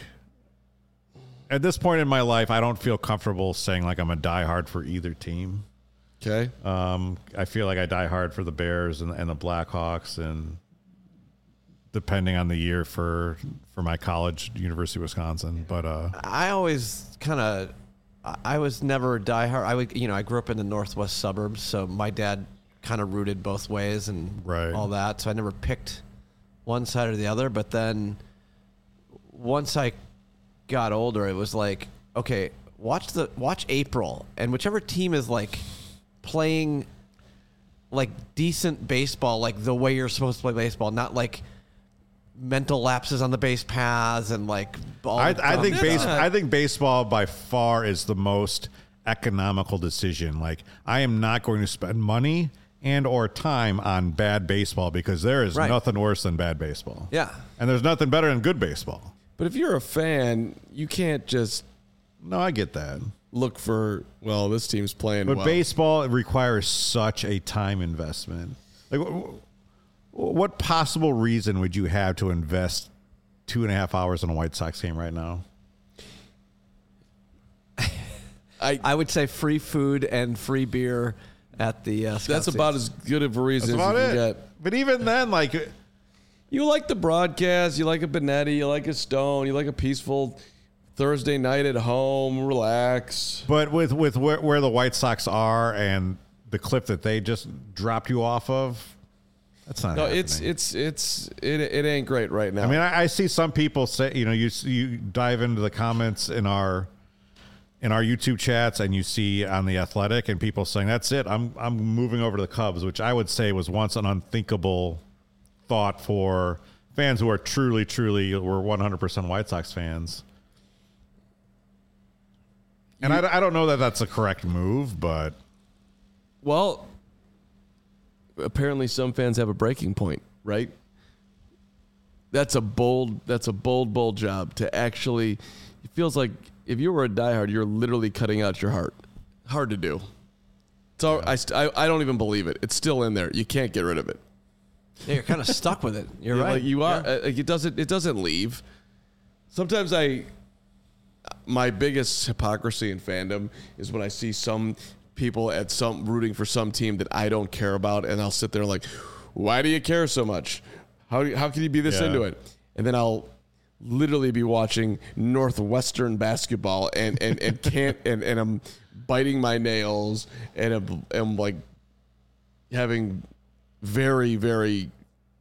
At this point in my life, I don't feel comfortable saying like I'm a diehard for either team. Okay. Um, I feel like I die hard for the Bears and, and the Blackhawks, and depending on the year for for my college, University of Wisconsin. But uh, I always kind of, I was never a diehard. I would, you know, I grew up in the northwest suburbs, so my dad kind of rooted both ways and right. all that. So I never picked one side or the other. But then once I got older, it was like, okay, watch the watch April, and whichever team is like playing like decent baseball, like the way you're supposed to play baseball, not like mental lapses on the base paths and like ball. I, I think base, not. I think baseball by far is the most economical decision. Like, I am not going to spend money and or time on bad baseball because there is right. nothing worse than bad baseball. Yeah, and there's nothing better than good baseball. But if you're a fan, you can't just no, I get that. Look for, well, this team's playing but well. baseball requires such a time investment. Like, what possible reason would you have to invest two and a half hours in a White Sox game right now? I I would say free food and free beer at the. Uh, That's about as good of a reason That's as about you can it. get. But even then, like. You like the broadcast, you like a Benetti, you like a Stone, you like a peaceful Thursday night at home, relax. But with, with where, where the White Sox are and the clip that they just dropped you off of, that's not No, happening. it's it's it's it, it ain't great right now. I mean, I, I see some people say, you know, you you dive into the comments in our in our YouTube chats and you see on The Athletic and people saying, that's it, I'm I'm moving over to the Cubs, which I would say was once an unthinkable thought for fans who are truly, truly, were one hundred percent White Sox fans. And you, I, I don't know that that's a correct move, but well, apparently some fans have a breaking point, right? That's a bold. That's a bold, bold job to actually. It feels like if you were a diehard, you're literally cutting out your heart. Hard to do. So yeah. I, I, I don't even believe it. It's still in there. You can't get rid of it. Yeah, you're kind of stuck with it. You're yeah, right. Like you are. Yeah. Uh, it doesn't. It doesn't leave. Sometimes I. My biggest hypocrisy in fandom is when I see some people at some rooting for some team that I don't care about, and I'll sit there like, "Why do you care so much? How do you, how can you be this yeah. into it?" And then I'll literally be watching Northwestern basketball and and, and can't and, and I'm biting my nails and I'm, I'm like having very very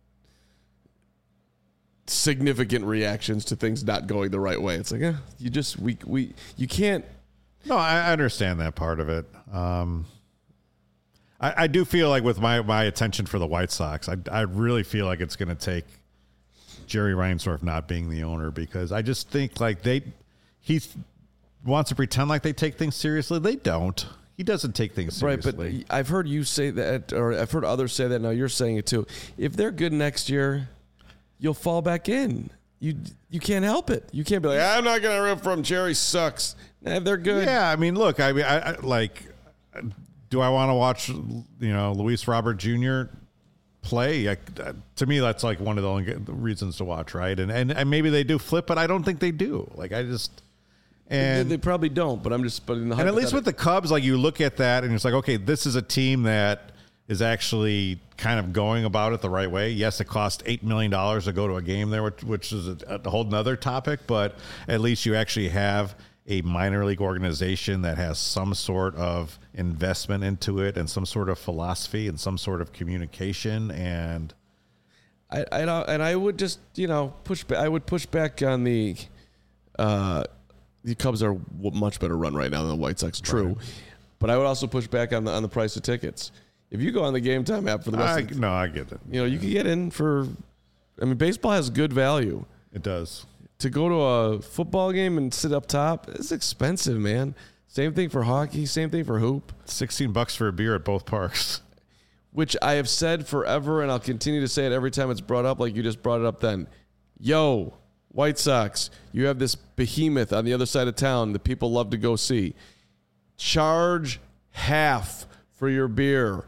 significant reactions to things not going the right way. It's like, eh, you just we we you can't. No, I understand that part of it. Um, I, I do feel like with my my attention for the White Sox, I I really feel like it's going to take Jerry Reinsdorf not being the owner, because I just think like they he wants to pretend like they take things seriously. They don't. He doesn't take things seriously. Right, but I've heard you say that, or I've heard others say that. Now you're saying it too. If they're good next year, you'll fall back in. You you can't help it. You can't be like, I'm not going to root for him. Jerry sucks. Nah, if they're good. Yeah, I mean, look, I mean, I, I like, do I want to watch, you know, Luis Robert Junior play? I, to me, that's like one of the only reasons to watch, right? And, and and maybe they do flip, but I don't think they do. Like, I just and they, they probably don't. But I'm just but in the and at least with the Cubs, like you look at that and it's like, okay, this is a team that is actually kind of going about it the right way. Yes, it cost eight million dollars to go to a game there, which, which is a, a whole nother topic, but at least you actually have a minor league organization that has some sort of investment into it and some sort of philosophy and some sort of communication. And I, I don't, and I would just, you know, push back. I would push back on the, uh, the Cubs are a much better run right now than the White Sox. True. Right. But I would also push back on the, on the price of tickets. If you go on the Game Time app for the rest I, of the, no, I get it. You know, you can get in for, I mean, baseball has good value. It does. To go to a football game and sit up top, it's expensive, man. Same thing for hockey, same thing for hoop. sixteen bucks for a beer at both parks. Which I have said forever, and I'll continue to say it every time it's brought up, like you just brought it up then. Yo, White Sox, you have this behemoth on the other side of town that people love to go see. Charge half for your beer.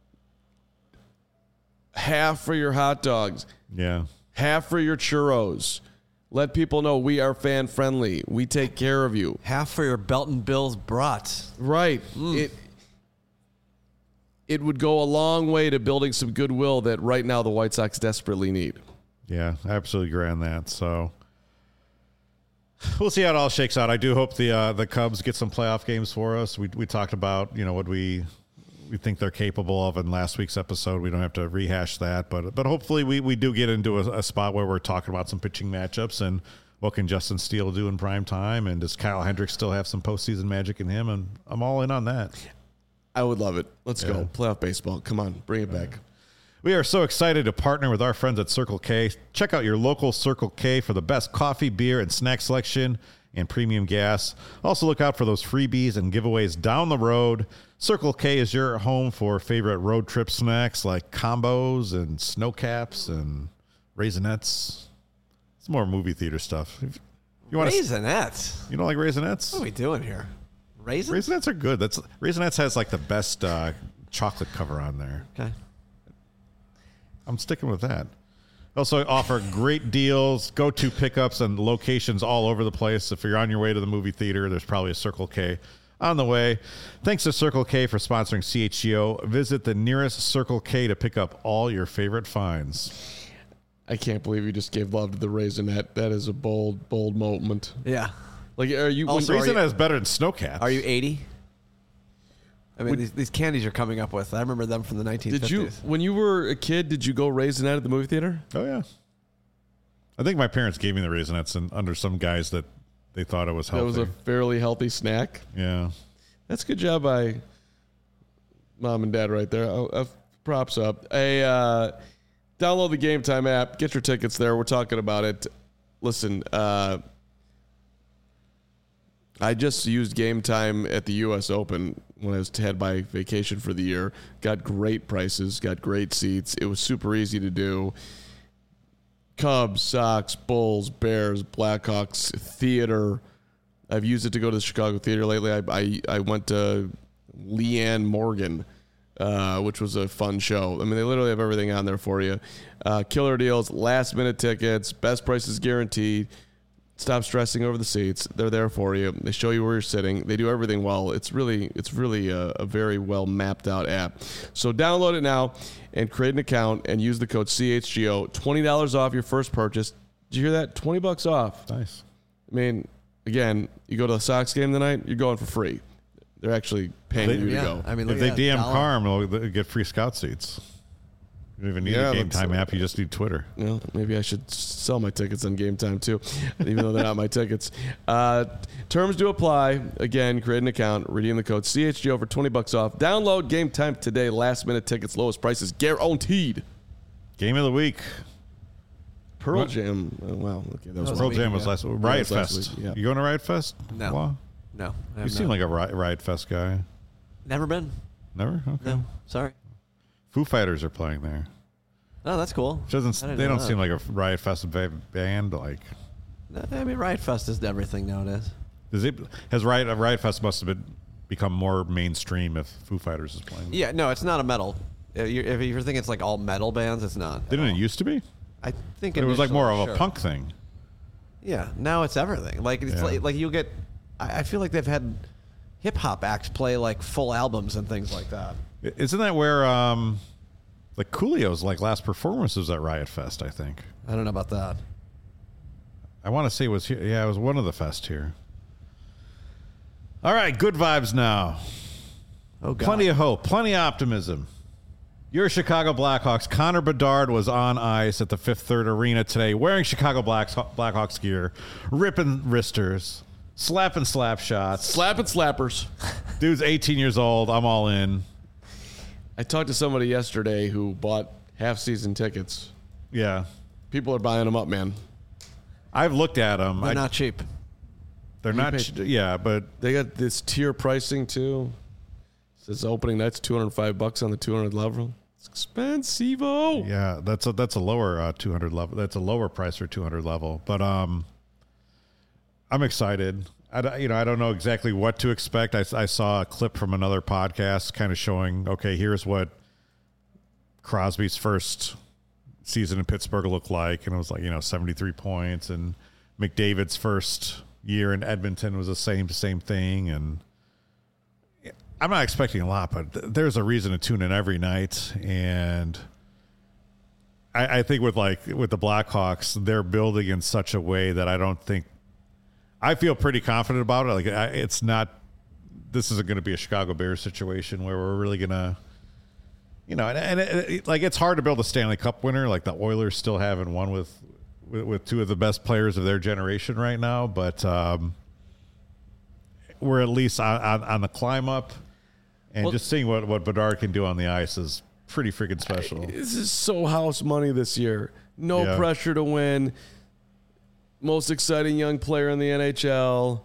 Half for your hot dogs. Yeah. Half for your churros. Let people know we are fan friendly. We take care of you. Half for your Belton Bills brats. Right. Mm. It it would go a long way to building some goodwill that right now the White Sox desperately need. Yeah, I absolutely agree on that. So we'll see how it all shakes out. I do hope the uh, the Cubs get some playoff games for us. We we talked about, you know, what we we think they're capable of in last week's episode. We don't have to rehash that, but but hopefully we, we do get into a, a spot where we're talking about some pitching matchups and what can Justin Steele do in prime time, and does Kyle Hendricks still have some postseason magic in him? And I'm all in on that. I would love it. Let's yeah. go. Playoff baseball. Come on, bring it back. We are so excited to partner with our friends at Circle K. Check out your local Circle K for the best coffee, beer, and snack selection and premium gas. Also look out for those freebies and giveaways down the road. Circle K is your home for favorite road trip snacks like combos and snow caps and Raisinets. It's more movie theater stuff. If you want Raisinets? To, you don't like Raisinets? What are we doing here? Raisins? Raisinets are good. That's Raisinets has like the best uh, chocolate cover on there. Okay. I'm sticking with that. Also offer great deals, go-to pickups, and locations all over the place. If you're on your way to the movie theater, there's probably a Circle K on the way. Thanks to Circle K for sponsoring C H G O. Visit the nearest Circle K to pick up all your favorite finds. I can't believe you just gave love to the Raisinette. That is a bold, bold moment. Yeah. Like, are you? Also, Raisinette are you, is better than Snow Caps. Are you eighty? I mean, Would, these, these candies you're coming up with. I remember them from the nineteen fifties. Did you, when you were a kid, did you go Raisinette at the movie theater? Oh, yeah. I think my parents gave me the Raisinets and under some guys that they thought it was healthy. That was a fairly healthy snack. Yeah. That's a good job by mom and dad right there. Oh, uh, props up. A, uh, Download the Game Time app. Get your tickets there. We're talking about it. Listen, uh, I just used Game Time at the U S Open when I was had my vacation for the year. Got great prices. Got great seats. It was super easy to do. Cubs, Sox, Bulls, Bears, Blackhawks, theater. I've used it to go to the Chicago theater lately. I I, I went to Leanne Morgan, uh, which was a fun show. I mean, they literally have everything on there for you. Uh, killer deals, last minute tickets, best prices guaranteed. Stop stressing over the seats. They're there for you. They show you where you're sitting. They do everything well. It's really, it's really a, a very well mapped out app. So download it now and create an account and use the code C H G O. twenty dollars off your first purchase. Did you hear that? twenty bucks off. Nice. I mean, again, you go to the Sox game tonight, you're going for free. They're actually paying They- you to Yeah, go. I mean, If look they at D M that, dollar. Carm, they'll get free scout seats. You don't even need Yeah, a Game that's- Time app. You just need Twitter. Well, maybe I should sell my tickets on Game Time too, even though they're not my tickets. Uh, terms do apply. Again, create an account, redeem the code C H G O for twenty bucks off. Download Game Time today. Last minute tickets, lowest prices guaranteed. Game of the week. Pearl What? Jam. Oh, wow. Okay, that was, was Pearl week Jam was ago. last Riot that was last Fest. week, yeah. You going to Riot Fest? No. Wow. No, I You have seem not. like a Riot, Riot Fest guy. Never been. Never? Okay. No, sorry. Foo Fighters are playing there. Oh, that's cool. Which doesn't, I didn't they know don't that. seem like a Riot Fest ba- band. Like, I mean, Riot Fest is everything nowadays. does it, has Riot, Riot Fest must have been, become more mainstream if Foo Fighters is playing? Yeah, no, it's not a metal. If you're, if you're thinking it's like all metal bands, it's not. Didn't it used to be? I think It was like more of initially, a sure. punk thing. Yeah, now it's everything. Like it's Yeah. like, like you get. I, I feel like they've had hip hop acts play like full albums and things like that. I- Isn't that where, um, like Coolio's like last performance was at Riot Fest, I think. I don't know about that. I want to say it was here. Yeah, it was one of the fest here. All right, good vibes now. Oh God. Plenty of hope, plenty of optimism. Your Chicago Blackhawks, Connor Bedard, was on ice at the Fifth Third Arena today wearing Chicago Blacks, Blackhawks gear, ripping wristers, slapping slap shots. Slapping slappers. Dude's eighteen years old. I'm all in. I talked to somebody yesterday who bought half season tickets. Yeah. People are buying them up, man. I've looked at them. They're I, not cheap. they're You not, paid- ch- yeah, but They got this tier pricing too. It says opening night's two hundred five bucks on the two hundred level. It's expensive. yeah, that's a, that's a lower uh, two hundred level. That's a lower price for two hundred level. But um, I'm excited. I don't- you know I don't know exactly what to expect. I, I saw a clip from another podcast, kind of showing okay, here's what Crosby's first season in Pittsburgh looked like, and it was like you know seventy-three points, and McDavid's first year in Edmonton was the same same thing, and I'm not expecting a lot, but th- there's a reason to tune in every night, and I, I think with like with the Blackhawks, they're building in such a way that I don't think I feel pretty confident about it. Like I, it's not, this isn't going to be a Chicago Bears situation where we're really going to, you know, and, and it, it, like it's hard to build a Stanley Cup winner. Like the Oilers still haven't won with with, with two of the best players of their generation right now, but um, we're at least on, on, on the climb up. And Well- just seeing what, what Bedard can do on the ice is pretty freaking special. This is so house money this year. No Yeah. pressure to win. Most exciting young player in the N H L.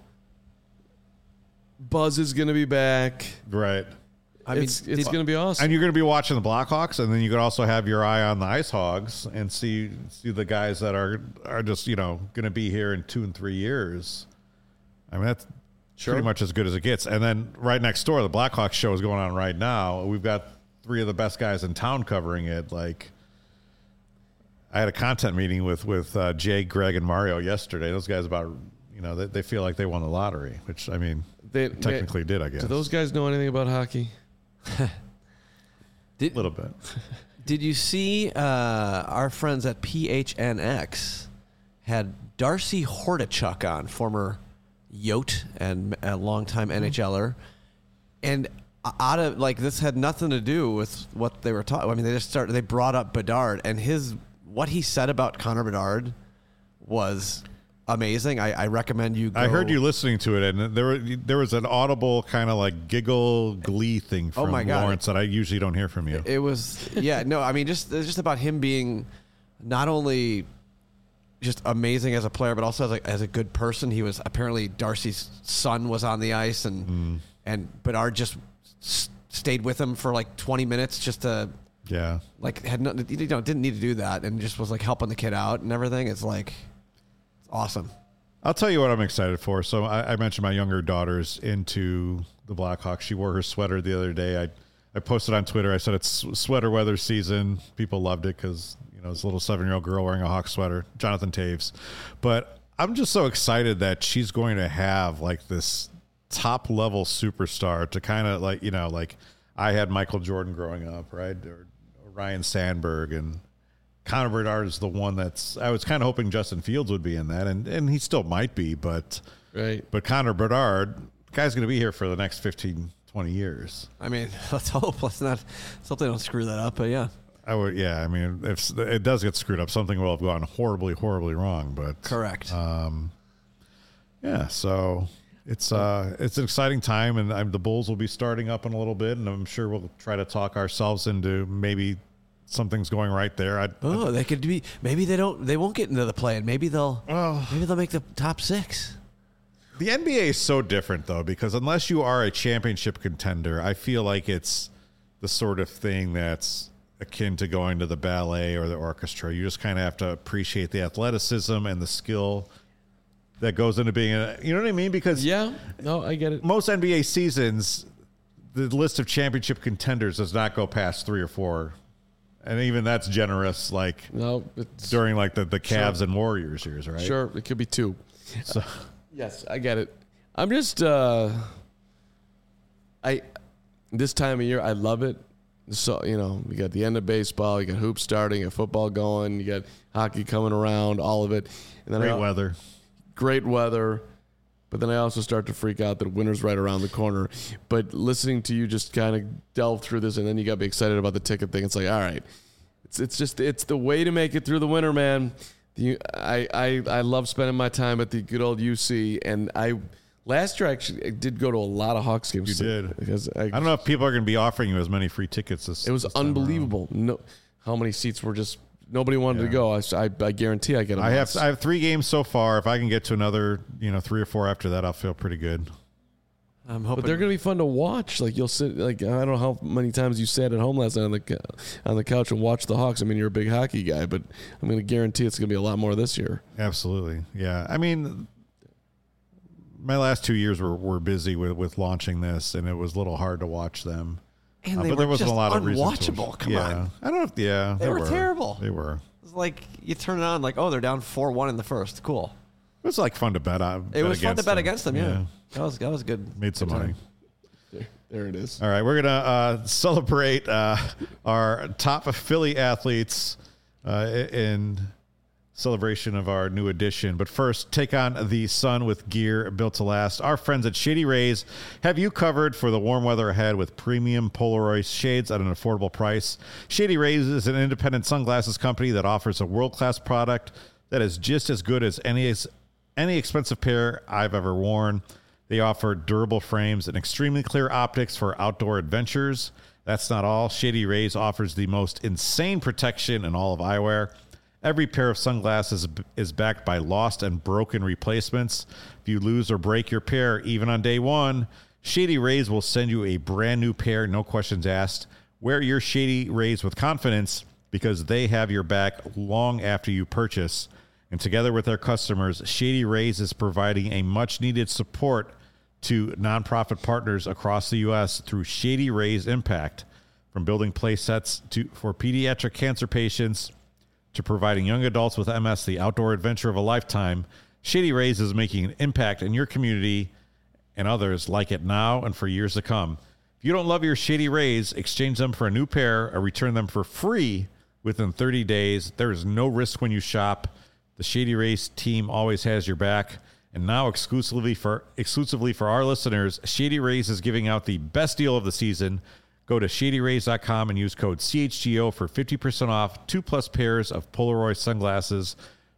Buzz is going to be back. Right. I mean, it's it's did- going to be awesome. And you're going to be watching the Blackhawks, and then you could also have your eye on the Ice Hogs and see see the guys that are are just you know going to be here in two and three years. I mean that's Sure. pretty much as good as it gets. And then right next door, the Blackhawks show is going on right now. We've got three of the best guys in town covering it. Like I had a content meeting with with uh, Jay, Greg, and Mario yesterday. Those guys about you know they, they feel like they won the lottery, which I mean They- technically did, I guess. Do those guys know anything about hockey? Did, a little bit. did you see uh, our friends at P H N X had Darcy Hordichuk on, former Yote and a longtime NHLer, and out of like this had nothing to do with what they were talking. I mean, they just started. They brought up Bedard, and his what he said about Connor Bedard was amazing. I, I recommend you go. I heard you listening to it, and there were, there was an audible kind of like giggle glee thing from Oh my God. Lawrence that I usually don't hear from you. It was, yeah, no, I mean, just it's just about him being not only just amazing as a player, but also as a, as a good person. He was apparently Darcy's son was on the ice, and Mm. and Bedard just s- stayed with him for like twenty minutes just to Yeah. like had no, you know, didn't need to do that, and just was like helping the kid out and everything. It's like it's awesome. I'll tell you what I'm excited for. So I, I mentioned my younger daughter's into the Blackhawks. She wore her sweater the other day. I, I posted on Twitter. I said it's sweater weather season. People loved it because, you know, this little seven-year-old girl wearing a Hawk sweater, Jonathan Taves. But I'm just so excited that she's going to have like this top-level superstar to kind of like, you know, like I had Michael Jordan growing up, right? Or, or Ryan Sandberg, and Connor Bedard is the one that's, I was kind of hoping Justin Fields would be in that, and, and he still might be, but Right. but Connor Bedard, the guy's going to be here for the next fifteen, twenty years. I mean, let's hope. Let's not. Let's hope they don't screw that up. But yeah, I would, yeah. I mean, if it does get screwed up, something will have gone horribly, horribly wrong. But correct. Um, yeah. So it's uh, it's an exciting time, and I'm, the Bulls will be starting up in a little bit, and I'm sure we'll try to talk ourselves into maybe something's going right there. I, oh, they could be. Maybe they don't. They won't get into the play, and maybe they'll. Oh. Maybe they'll make the top six. The N B A is so different, though, because unless you are a championship contender, I feel like it's the sort of thing that's akin to going to the ballet or the orchestra. You just kind of have to appreciate the athleticism and the skill that goes into being a, you know what I mean? Because Yeah. No, I get it. most N B A seasons, the list of championship contenders does not go past three or four. And even that's generous, like No, it's during like the, the Cavs Sure. and Warriors years, right? sure. It could be two. So, Yes, I get it. I'm just uh I this time of year I love it. So, you know, you got the end of baseball, you got hoops starting, you got football going, you got hockey coming around, all of it. And then great I, weather. great weather. But then I also start to freak out that winter's right around the corner. But listening to you just kind of delve through this, and then you got me excited about the ticket thing. It's like, all right, it's it's just it's the way to make it through the winter, man. The, I, I I love spending my time at the good old U C, and I last year I actually did go to a lot of Hawks games. You did. Because I, I don't know if people are going to be offering you as many free tickets as it was this time around. unbelievable. No, how many seats were just nobody wanted Yeah. to go. I, I, I guarantee I get. A I have box. I have three games so far. If I can get to another, you know, three or four after that, I'll feel pretty good. I'm hoping But they're gonna be fun to watch. Like you'll sit, like I don't know how many times you sat at home last night on the cou- on the couch and watched the Hawks. I mean, you're a big hockey guy, but I'm gonna guarantee it's gonna be a lot more this year. Absolutely, yeah. I mean, my last two years were, were busy with, with launching this, and it was a little hard to watch them. and Uh, they but were there wasn't just a lot of reason to- unwatchable. Come yeah. on, I don't know. If, yeah, They were terrible. They were. it's like you turn it on, like oh, they're down four one in the first. Cool. It was like fun to bet on. It bet was fun to against bet them. against them. Yeah, that was that was good. Made some good time. money. There, there it is. All right, we're gonna uh, celebrate uh, our top Philly athletes uh, in celebration of our new edition. But first, take on the sun with gear built to last. Our friends at Shady Rays have you covered for the warm weather ahead with premium Polaroid shades at an affordable price. Shady Rays is an independent sunglasses company that offers a world-class product that is just as good as any any expensive pair I've ever worn. They offer durable frames and extremely clear optics for outdoor adventures. That's not all. Shady Rays offers the most insane protection in all of eyewear. Every pair of sunglasses is backed by lost and broken replacements. If you lose or break your pair, even on day one, Shady Rays will send you a brand new pair, no questions asked. Wear your Shady Rays with confidence because they have your back long after you purchase. And together with their customers, Shady Rays is providing a much-needed support to nonprofit partners across the U S through Shady Rays Impact. From building play sets to, for pediatric cancer patients to providing young adults with M S the outdoor adventure of a lifetime, Shady Rays is making an impact in your community and others like it now and for years to come. If you don't love your Shady Rays, exchange them for a new pair or return them for free within thirty days. There is no risk when you shop. The Shady Rays team always has your back. And now exclusively for exclusively for our listeners, Shady Rays is giving out the best deal of the season. Go to shady rays dot com and use code C H G O for fifty percent off two plus pairs of Polaroid sunglasses.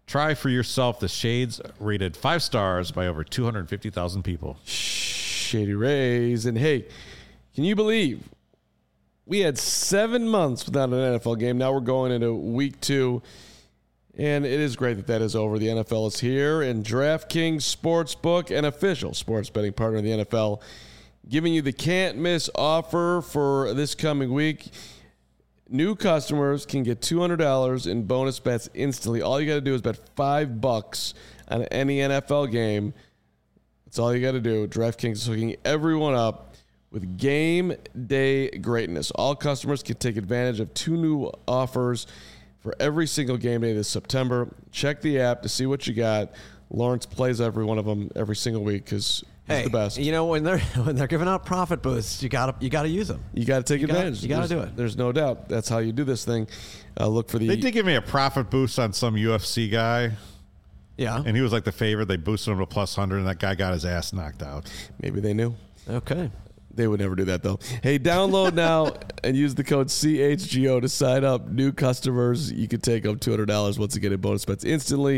Try for yourself the shades rated five stars by over two hundred fifty thousand people. Shady Rays. And hey, can you believe we had seven months without an N F L game? Now we're going into week two. And it is great that that is over. The N F L is here, and DraftKings Sportsbook, an official sports betting partner of the N F L, giving you the can't-miss offer for this coming week. New customers can get two hundred dollars in bonus bets instantly. All you got to do is bet five bucks on any N F L game. That's all you got to do. DraftKings is hooking everyone up with game day greatness. All customers can take advantage of two new offers for every single game day this September. Check the app to see what you got. Lawrence plays every one of them every single week because he's hey, the best. You know, when they're when they're giving out profit boosts, you gotta you gotta use them. You got to take You gotta- advantage. you gotta There's- do it. There's no doubt. That's how you do this thing. Uh, look for the. They did give me a profit boost on some U F C guy, Yeah. and he was like the favorite. They boosted him to plus one hundred, and that guy got his ass knocked out. Maybe they knew. Okay. They would never do that, though. Hey, download now and use the code C H G O to sign up. New customers, you can take up two hundred dollars once again in bonus bets instantly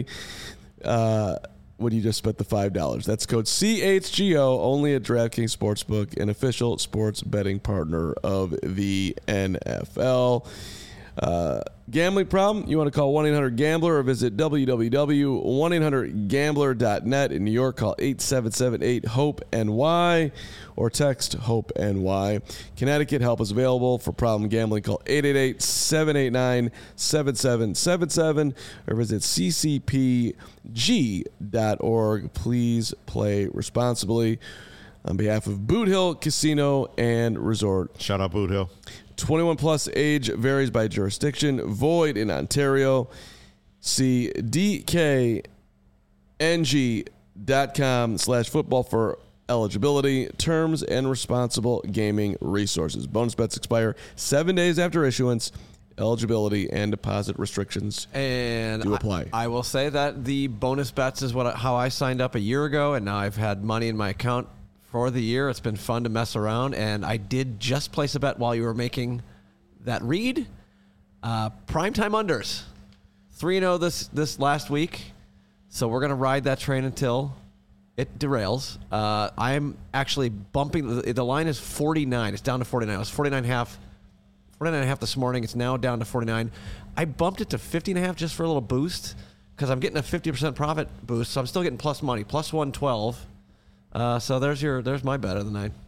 uh, when you just spent the five dollars. That's code C H G O, only at DraftKings Sportsbook, an official sports betting partner of the N F L. Uh, gambling problem? You want to call one eight hundred gambler or visit w w w dot one eight hundred gambler dot net. In New York, call eight seven seven eight hope N Y or text HOPE-N-Y. Connecticut, help is available for problem gambling. Call eight eight eight, seven eight nine, seven seven seven seven or visit c c p g dot org. Please play responsibly. On behalf of Boot Hill Casino and Resort. Shout out Boot Hill. twenty-one plus age varies by jurisdiction. Void in Ontario. See d k n g dot com slash football for eligibility, terms, and responsible gaming resources. Bonus bets expire seven days after issuance. Eligibility and deposit restrictions And do apply. I, I will say that the bonus bets is what how I signed up a year ago, and now I've had money in my account for the year. It's been fun to mess around, and I did just place a bet while you were making that read. Uh, primetime unders, three and zero this this last week, so we're gonna ride that train until it derails. Uh, I'm actually bumping the, the line is forty-nine. It's down to forty-nine. It was forty-nine and a half. forty-nine and a half this morning. It's now down to forty-nine. I bumped it to fifty and a half just for a little boost because I'm getting a fifty percent profit boost, so I'm still getting plus money, plus one twelve. Uh, so there's your there's my bet of the night.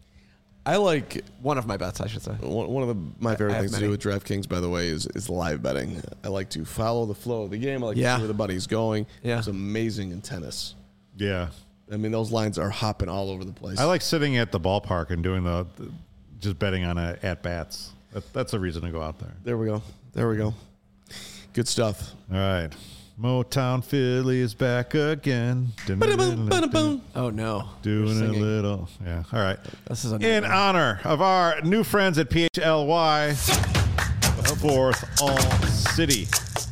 I like One of my bets, I should say. one one of the, my favorite I have things to many. do with DraftKings, by the way, is, is live betting. I like to follow the flow of the game. I like Yeah. to see where the buddy's going. Yeah. It's amazing in tennis. Yeah. I mean, those lines are hopping all over the place. I like sitting at the ballpark and doing the, the just betting on a, at bats. That, that's a reason to go out there. There we go. There we go. Good stuff. All right. Motown Philly is back again. Ba-da-boom, ba-da-boom. Oh no, Doing You're a singing. little. Yeah. All right. This is a In nightmare. honor of our new friends at P H L Y, the fourth All City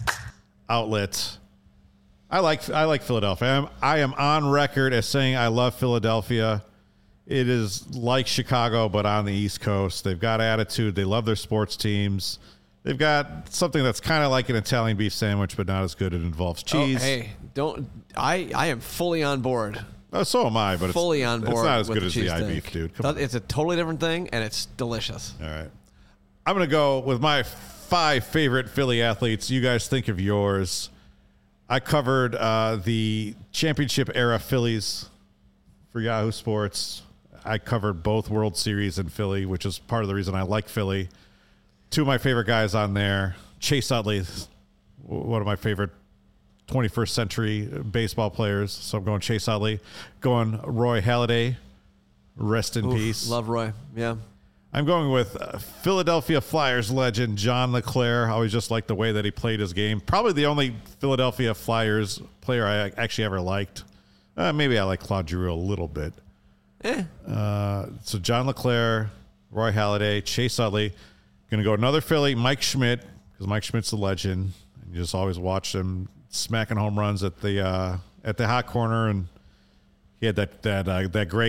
outlet. I like I like Philadelphia. I am, I am on record as saying I love Philadelphia. It is like Chicago, but on the East Coast. They've got attitude. They love their sports teams. They've got something that's kind of like an Italian beef sandwich, but not as good. It involves Oh, cheese. hey, don't I? I am fully on board. Oh, so am I, but fully it's, on board. it's not as with good the as the cheese I steak. beef, dude. Come on. It's a totally different thing, and it's delicious. All right. I'm going to go with my five favorite Philly athletes. You guys think of yours. I covered uh, the championship era Phillies for Yahoo Sports. I covered both World Series in Philly, which is part of the reason I like Philly. Two of my favorite guys on there. Chase Utley, one of my favorite twenty-first century baseball players. So I'm going Chase Utley. Going Roy Halladay. Rest in Oof, peace. Love Roy. Yeah. I'm going with uh, Philadelphia Flyers legend John LeClair. I always just liked the way that he played his game. Probably the only Philadelphia Flyers player I actually ever liked. Uh, maybe I like Claude Giroux a little bit. Eh. Uh, so John LeClair, Roy Halladay, Chase Utley. Going to go another Philly, Mike Schmidt, because Mike Schmidt's a legend. You just always watch him smacking home runs at the uh, at the hot corner, and he had that that uh, that great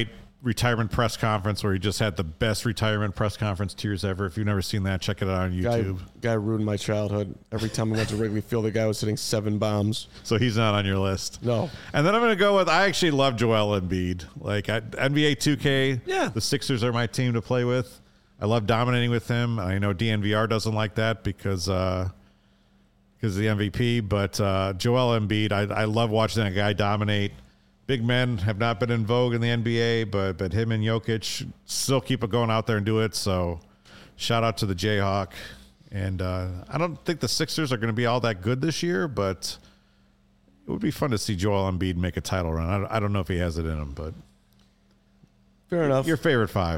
retirement press conference where he just had the best retirement press conference tears ever. If you've never seen that, check it out on Guy, YouTube. guy ruined my childhood. Every time I went to Wrigley Field, the guy was hitting seven bombs. So he's not on your list. No. And then I'm going to go with, I actually love Joel Embiid. Like I, N B A two K, Yeah. the Sixers are my team to play with. I love dominating with him. I know D N V R doesn't like that because uh, because of the M V P, but uh, Joel Embiid, I, I love watching that guy dominate. Big men have not been in vogue in the N B A, but but him and Jokic still keep it going out there and do it. So shout out to the Jayhawk. And uh, I don't think the Sixers are going to be all that good this year, but it would be fun to see Joel Embiid make a title run. I don't, I don't know if he has it in him, but Fair enough. your favorite five.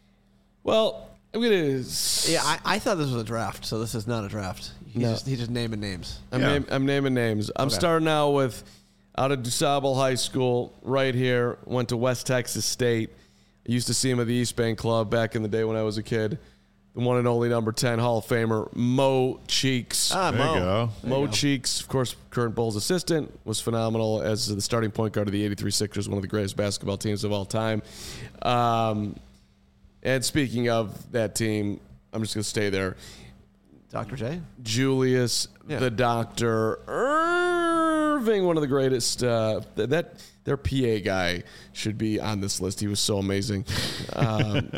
Well, I'm going to... Yeah, I, I thought this was a draft, so this is not a draft. He's, No. just, he's just naming names. I'm, Yeah. name, I'm naming names. I'm Okay. starting out with out of DuSable High School, right here. Went to West Texas State. I used to see him at the East Bank Club back in the day when I was a kid. The one and only number ten Hall of Famer, Mo Cheeks. Ah, There Mo. you go. There Mo you go. Cheeks, of course, current Bulls assistant, was phenomenal as the starting point guard of the eighty-three Sixers, one of the greatest basketball teams of all time. Um, and speaking of that team, I'm just going to stay there. Doctor J? Julius, Yeah. the Doctor Irving, one of the greatest. Uh, th- that their P A guy should be on this list. He was so amazing. Um,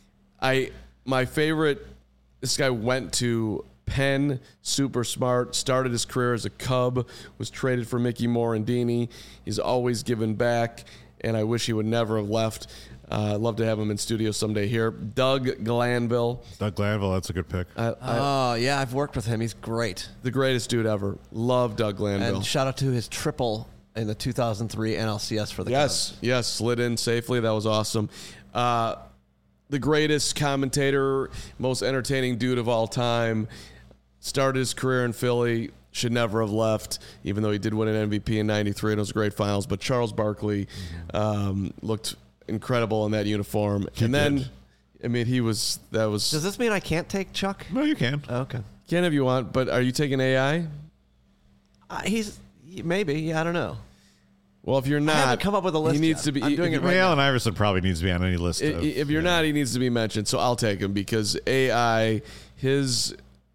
I my favorite. This guy went to Penn, super smart. Started his career as a Cub. Was traded for Mickey Morandini. He's always given back, and I wish he would never have left. Uh, I'd love to have him in studio someday here. Doug Glanville. Doug Glanville, that's a good pick. I, I, Oh, yeah, I've worked with him. He's great. the greatest dude ever. Love Doug Glanville. And shout out to his triple in the two thousand three N L C S for the Yes, Cubs. yes, slid in safely. That was awesome. Uh, the greatest commentator, most entertaining dude of all time. Started his career in Philly. Should never have left, even though he did win an M V P in ninety-three and it was great finals. But Charles Barkley um, looked incredible in that uniform. He and then, did. I mean, he was, that was, Does this mean I can't take Chuck? No, you can. Okay. can if you want, but are you taking A I? Uh, he's maybe. Yeah, I don't know. Well, if you're not, haven't come up with a list He needs yet. to be. I'm doing if it you- right Ray now. Allen Iverson probably needs to be on any list. I- of, if you're yeah. not, he needs to be mentioned. So I'll take him because A I, his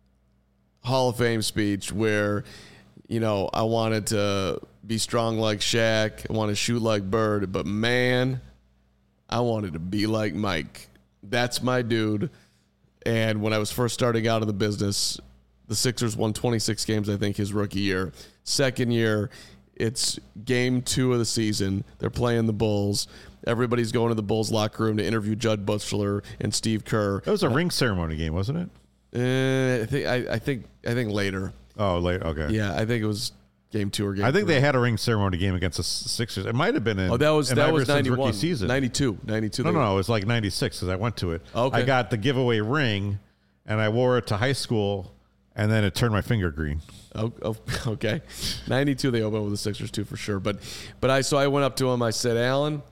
Hall of Fame speech where, you know, I wanted to be strong like Shaq, I want to shoot like Bird, but man, I wanted to be like Mike. That's my dude. And when I was first starting out in the business, the Sixers won twenty-six games, I think, his rookie year. Second year, it's game two of the season. They're playing the Bulls. Everybody's going to the Bulls locker room to interview Judd Butler and Steve Kerr. That was a ring ceremony game, wasn't it? Uh, I think I, I think I think later. Oh, late. Okay. Yeah, I think it was game two or game. I think three. they had a ring ceremony game against the Sixers. It might have been in. Oh, that was in that was Iverson's ninety-one, rookie season. ninety-two, ninety-two. No, they- no, no. It was like ninety-six because I went to it. Okay. I got the giveaway ring, and I wore it to high school, and then it turned my finger green. Oh, oh, okay. ninety-two they opened with the Sixers too for sure. But but I so I went up to him. I said, Alan,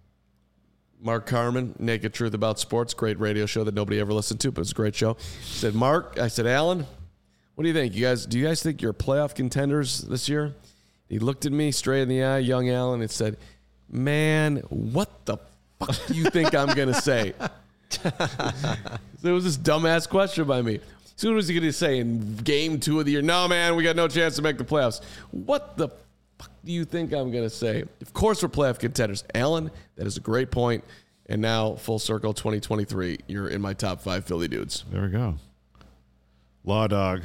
Mark Carman, Naked Truth About Sports, great radio show that nobody ever listened to, but it's a great show. I said, Mark, I said, Alan, what do you think? You guys, do you guys think you're playoff contenders this year? He looked at me straight in the eye, young Alan, and said, man, what the fuck do you think I'm gonna say? So it was this dumbass question by me. So what was he going to say in game two of the year? No, man, we got no chance to make the playoffs. What the fuck do you think I'm going to say? Of course we're playoff contenders. Alan, that is a great point. And now, full circle, twenty twenty-three, you're in my top five Philly dudes. There we go. Law Dog.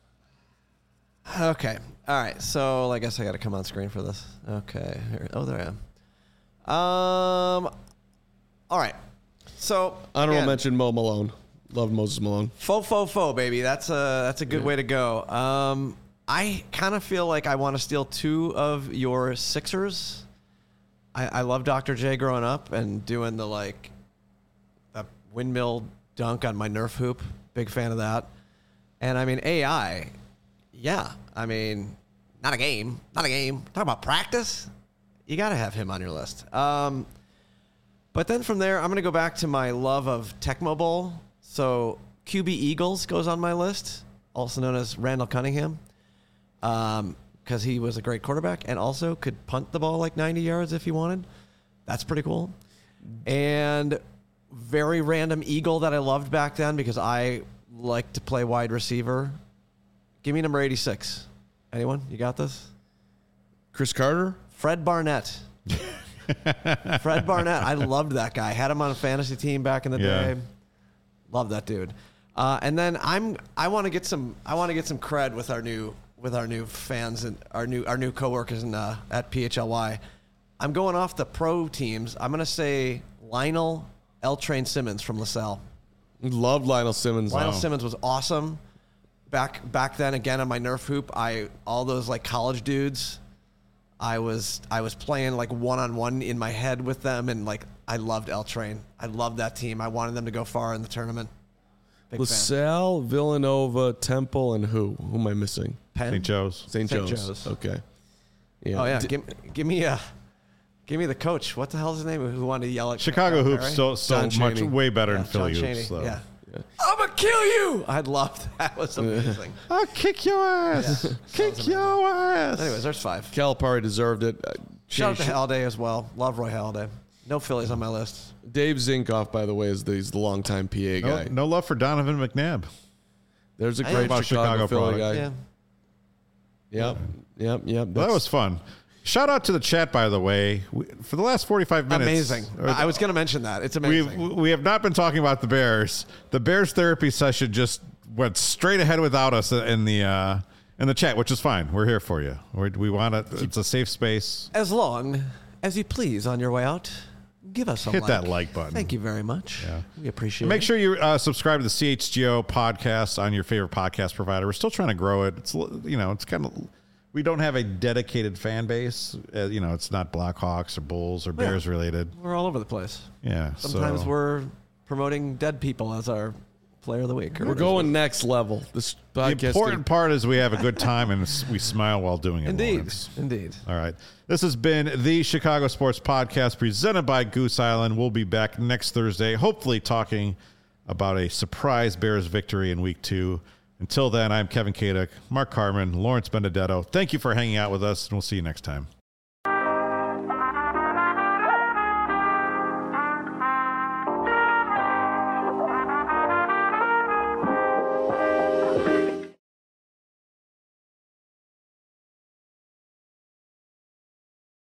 Okay. All right. So I guess I got to come on screen for this. Okay. Here. Oh, there I am. Um. All right. So Honorable again, mention, Mo Malone. Love Moses Malone. Faux, faux, faux, baby. That's a that's a good way to go. Um, I kind of feel like I want to steal two of your Sixers. I, I love Doctor J growing up and doing the like the windmill dunk on my Nerf hoop. Big fan of that. And I mean A I, yeah. I mean, not a game, not a game. Talk about practice. You got to have him on your list. Um, but then from there, I'm going to go back to my love of Tecmo Bowl. So Q B Eagles goes on my list, also known as Randall Cunningham, because um, he was a great quarterback and also could punt the ball like ninety yards if he wanted. That's pretty cool. And very random Eagle that I loved back then because I like to play wide receiver. Give me number eighty-six. Anyone? You got this? Chris Carter? Fred Barnett. Fred Barnett. I loved that guy. Had him on a fantasy team back in the Yeah. day. Love that dude. Uh, and then I'm I want to get some I want to get some cred with our new with our new fans and our new our new coworkers in, uh, at P H L Y. I'm going off the pro teams. I'm going to say Lionel L. Train Simmons from LaSalle. Loved Lionel Simmons. Lionel Wow. Simmons was awesome. Back back then, again on my Nerf hoop, I all those like college dudes. I was I was playing like one on one in my head with them, and like I loved L Train. I loved that team. I wanted them to go far in the tournament. Big fan. LaSalle, Villanova, Temple, and who? Who am I missing? Penn? Saint Joe's. Saint Saint Joe's. Joe's. Okay. Yeah. Oh yeah, D- give, give me a give me the coach. What the hell is his name? Who wanted to yell at Chicago Perry? hoops so so John much Chaney. way better Yeah, than Philly John hoops. Chaney. So. Yeah. I'm gonna kill you. I loved that. It was amazing. I'll kick your ass. Yeah. Kick your ass. Anyways, there's five. Calipari deserved it. Uh, Shout out to Jay- Halliday as well. Love Roy Halladay. No Phillies on my list. Dave Zinkoff, by the way, is the, he's the longtime P A No, guy. no love for Donovan McNabb. There's a I great am about Chicago, Chicago Philly product. guy. Yeah. Yep. Yep. Yep. That That's- was fun. Shout out to the chat, by the way. We, for the last forty-five minutes. Amazing. or- I was going to mention that. It's We amazing. we have not been talking about the Bears. The Bears therapy session just went straight ahead without us in the uh, in the chat, which is fine. We're here for you. We're, we want it. It's a safe space. As long as you please on your way out, give us a Hit like. that like button. Thank you very much. Yeah. We appreciate Make it. sure you uh, subscribe to the C H G O podcast on your favorite podcast provider. We're still trying to grow it. It's you know it's kind of we don't have a dedicated fan base. Uh, you know it's not Blackhawks or Bulls or Bears related. We're all over the place. Yeah. Sometimes so. we're promoting dead people as our player of the week. or We're whatever. going next level. This The podcast. important part is we have a good time and s- we smile while doing it. Indeed. Lawrence. Indeed. All right. This has been the Chicago Sports Podcast presented by Goose Island. We'll be back next Thursday, hopefully talking about a surprise Bears victory in week two. Until then, I'm Kevin Kaduk, Mark Carman, Lawrence Benedetto. Thank you for hanging out with us, and we'll see you next time.